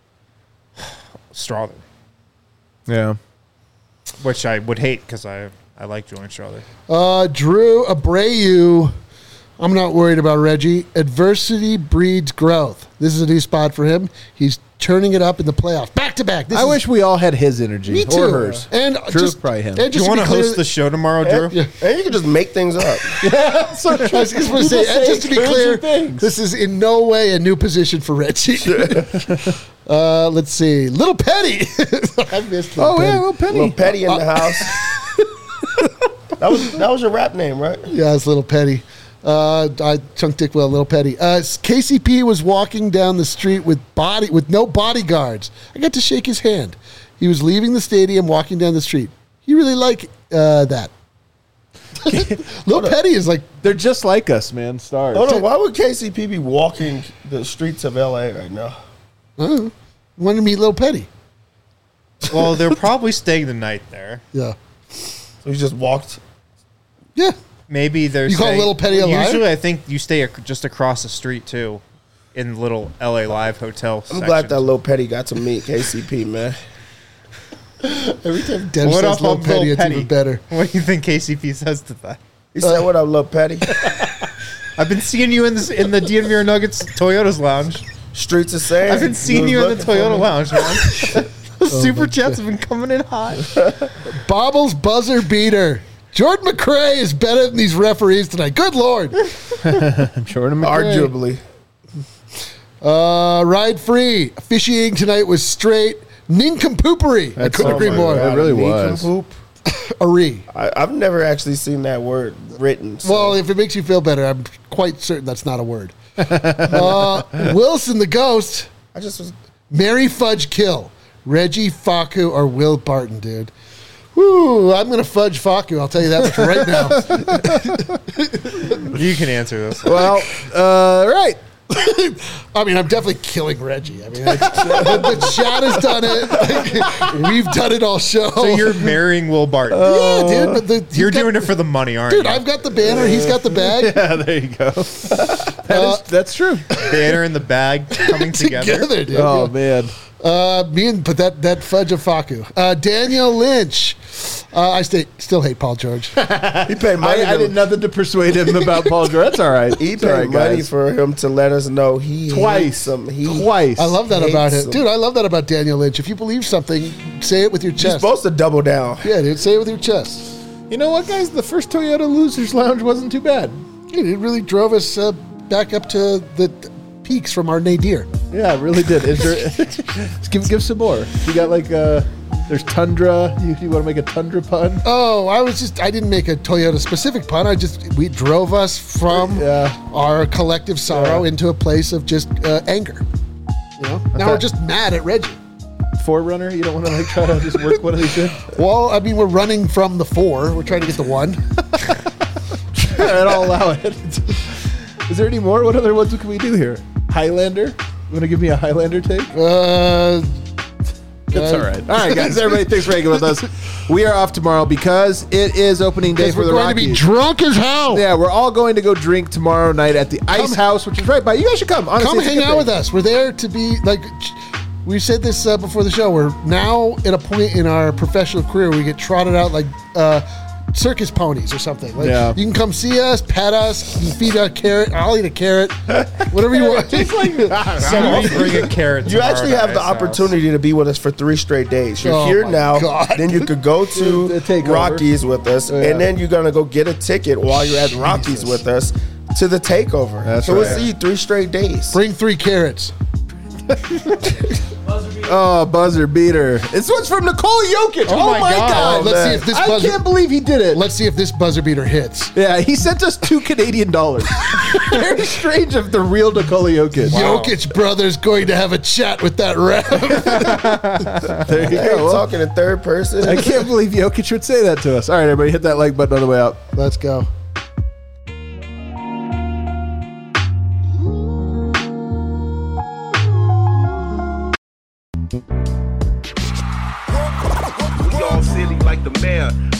Strawther, Yeah. which I would hate because I I like Julian Strawther. Uh, Drew Abreu. I'm not worried about Reggie. Adversity breeds growth. This is a new spot for him. He's turning it up in the playoffs, back to back. This I is- wish we all had his energy. me too. Or hers. And Drew, just probably him. And Do just you want to be clear, host the show tomorrow, Drew? Yeah. And you can just make things up. so I was just going to say, and just to be clear, this is in no way a new position for Reggie. uh, let's see, Little Petty. I missed Little Oh Petty. yeah, well, Penny. Little Petty in the house. that was that was your rap name, right? Yeah, it's Little Petty. Uh, I Chunk Dickwell, Little Petty. Uh, K C P was walking down the street with body with no bodyguards. I got to shake his hand. He was leaving the stadium, walking down the street. He really liked uh, that. Little Petty is like, They're just like us, man. Stars. Hold on, why would K C P be walking the streets of L A right now? uh, wanted to meet Little Petty. Well, they're probably staying the night there. Yeah, So he just walked. yeah. Maybe they're You call saying- Little Petty a liar? Usually, I think you stay ac- just across the street too, in little L A Live hotel. I'm glad that Lil Petty got to meet K C P, man. Every time Dev What says up, Little I'm Petty, Lil it's Petty? even better. What do you think K C P says to that? He said, "What up, Lil Petty?" I've been seeing you in this in the D N V R Nuggets Toyota's lounge. Streets of sand. I've been seeing you in the Toyota lounge, man. Oh, Super chats have been coming in hot. Bobbles buzzer beater. Jordan McRae is better than these referees tonight. Good Lord. Jordan McRae. Arguably. Uh, ride free. Officiating tonight was straight nincompoopery. I That's- couldn't oh agree my more. God. It really Me was. Poop. Ari. I, I've never actually seen that word written. So. Well, if it makes you feel better, I'm quite certain that's not a word. uh, Wilson the Ghost. I just was. Mary Fudge Kill. Reggie Faku or Will Barton, dude. Woo, I'm going to fudge Faku. I'll tell you that much right now. You can answer this. Well, uh, right. I mean, I'm definitely killing Reggie. I mean, I, the chat has done it. Like, we've done it all show. So you're marrying Will Barton. yeah, dude. But the, you're he's got- doing it for the money, aren't Dude, you? I've got the banner. He's got the bag. Yeah, there you go. That Uh, is, that's true. Banner and the bag coming together. Together, dude. Oh man. Uh, me and but that that fudge of Faku. Uh, Daniel Lynch. Uh, I stay, still hate Paul George. He paid money. I, I to- did nothing to persuade him about Paul George. That's all right. He It's all paid right, money guys. for him to let us know he Twice. hates him. He, Twice. I love that Hates about him, him. dude. I love that about Daniel Lynch. If you believe something, say it with your You're chest. supposed to double down. Yeah, dude. Say it with your chest. You know what, guys? The first Toyota Losers Lounge wasn't too bad. Dude, it really drove us uh, back up to the peaks from our nadir. Yeah, it really did. Is there, just give give some more. You got like uh, there's Tundra. You, you want to make a Tundra pun? Oh, I was just, I didn't make a Toyota specific pun. I just, we drove us from Yeah. our collective sorrow Yeah. into a place of just uh, anger. You know? Now Okay. we're just mad at Reggie. Forerunner. You don't want to like try to just work one of these in. Well, I mean, we're running from the four. We're trying to get the one. I'll allow it. Is there any more? What other ones can we do here? Highlander. You want to give me a Highlander take? Uh, It's uh, all right. All right, guys. Everybody, thanks for hanging with us. We are off tomorrow because it is opening day Because for we're the going Rockies. to be drunk as hell. Yeah, we're all going to go drink tomorrow night at the Ice House, which is right by. You guys should come. Honestly, Come it's a hang good out thing. with us. We're there to be like. We said this uh, before the show. We're now at a point in our professional career where we get trotted out like uh, circus ponies or something. Like, Yeah. you can come see us, pet us, you can feed a carrot. I'll eat a carrot, whatever you want. Somebody bring a carrot. You tomorrow actually to have the Ice House. opportunity to be with us for three straight days. You're Oh here my now, God. then you could go to The takeover. Rockies with us, Yeah. and then you're gonna go get a ticket while you're at Rockies with us to the takeover. That's so we'll right. see you three straight days. Bring three carrots. Oh, buzzer beater! This one's from Nikola Jokic. Oh, Oh my my god! God. Let's man. see if this I buzzer. can't believe he did it. Let's see if this buzzer beater hits. Yeah, he sent us two Canadian dollars. Very strange of the real Nikola Jokic. Jokic brothers going to have a chat with that ref. There you Hey, go. Well, talking in third person. I can't believe Jokic would say that to us. All right, everybody, hit that like button on the way out. Let's go. We all silly like the mayor.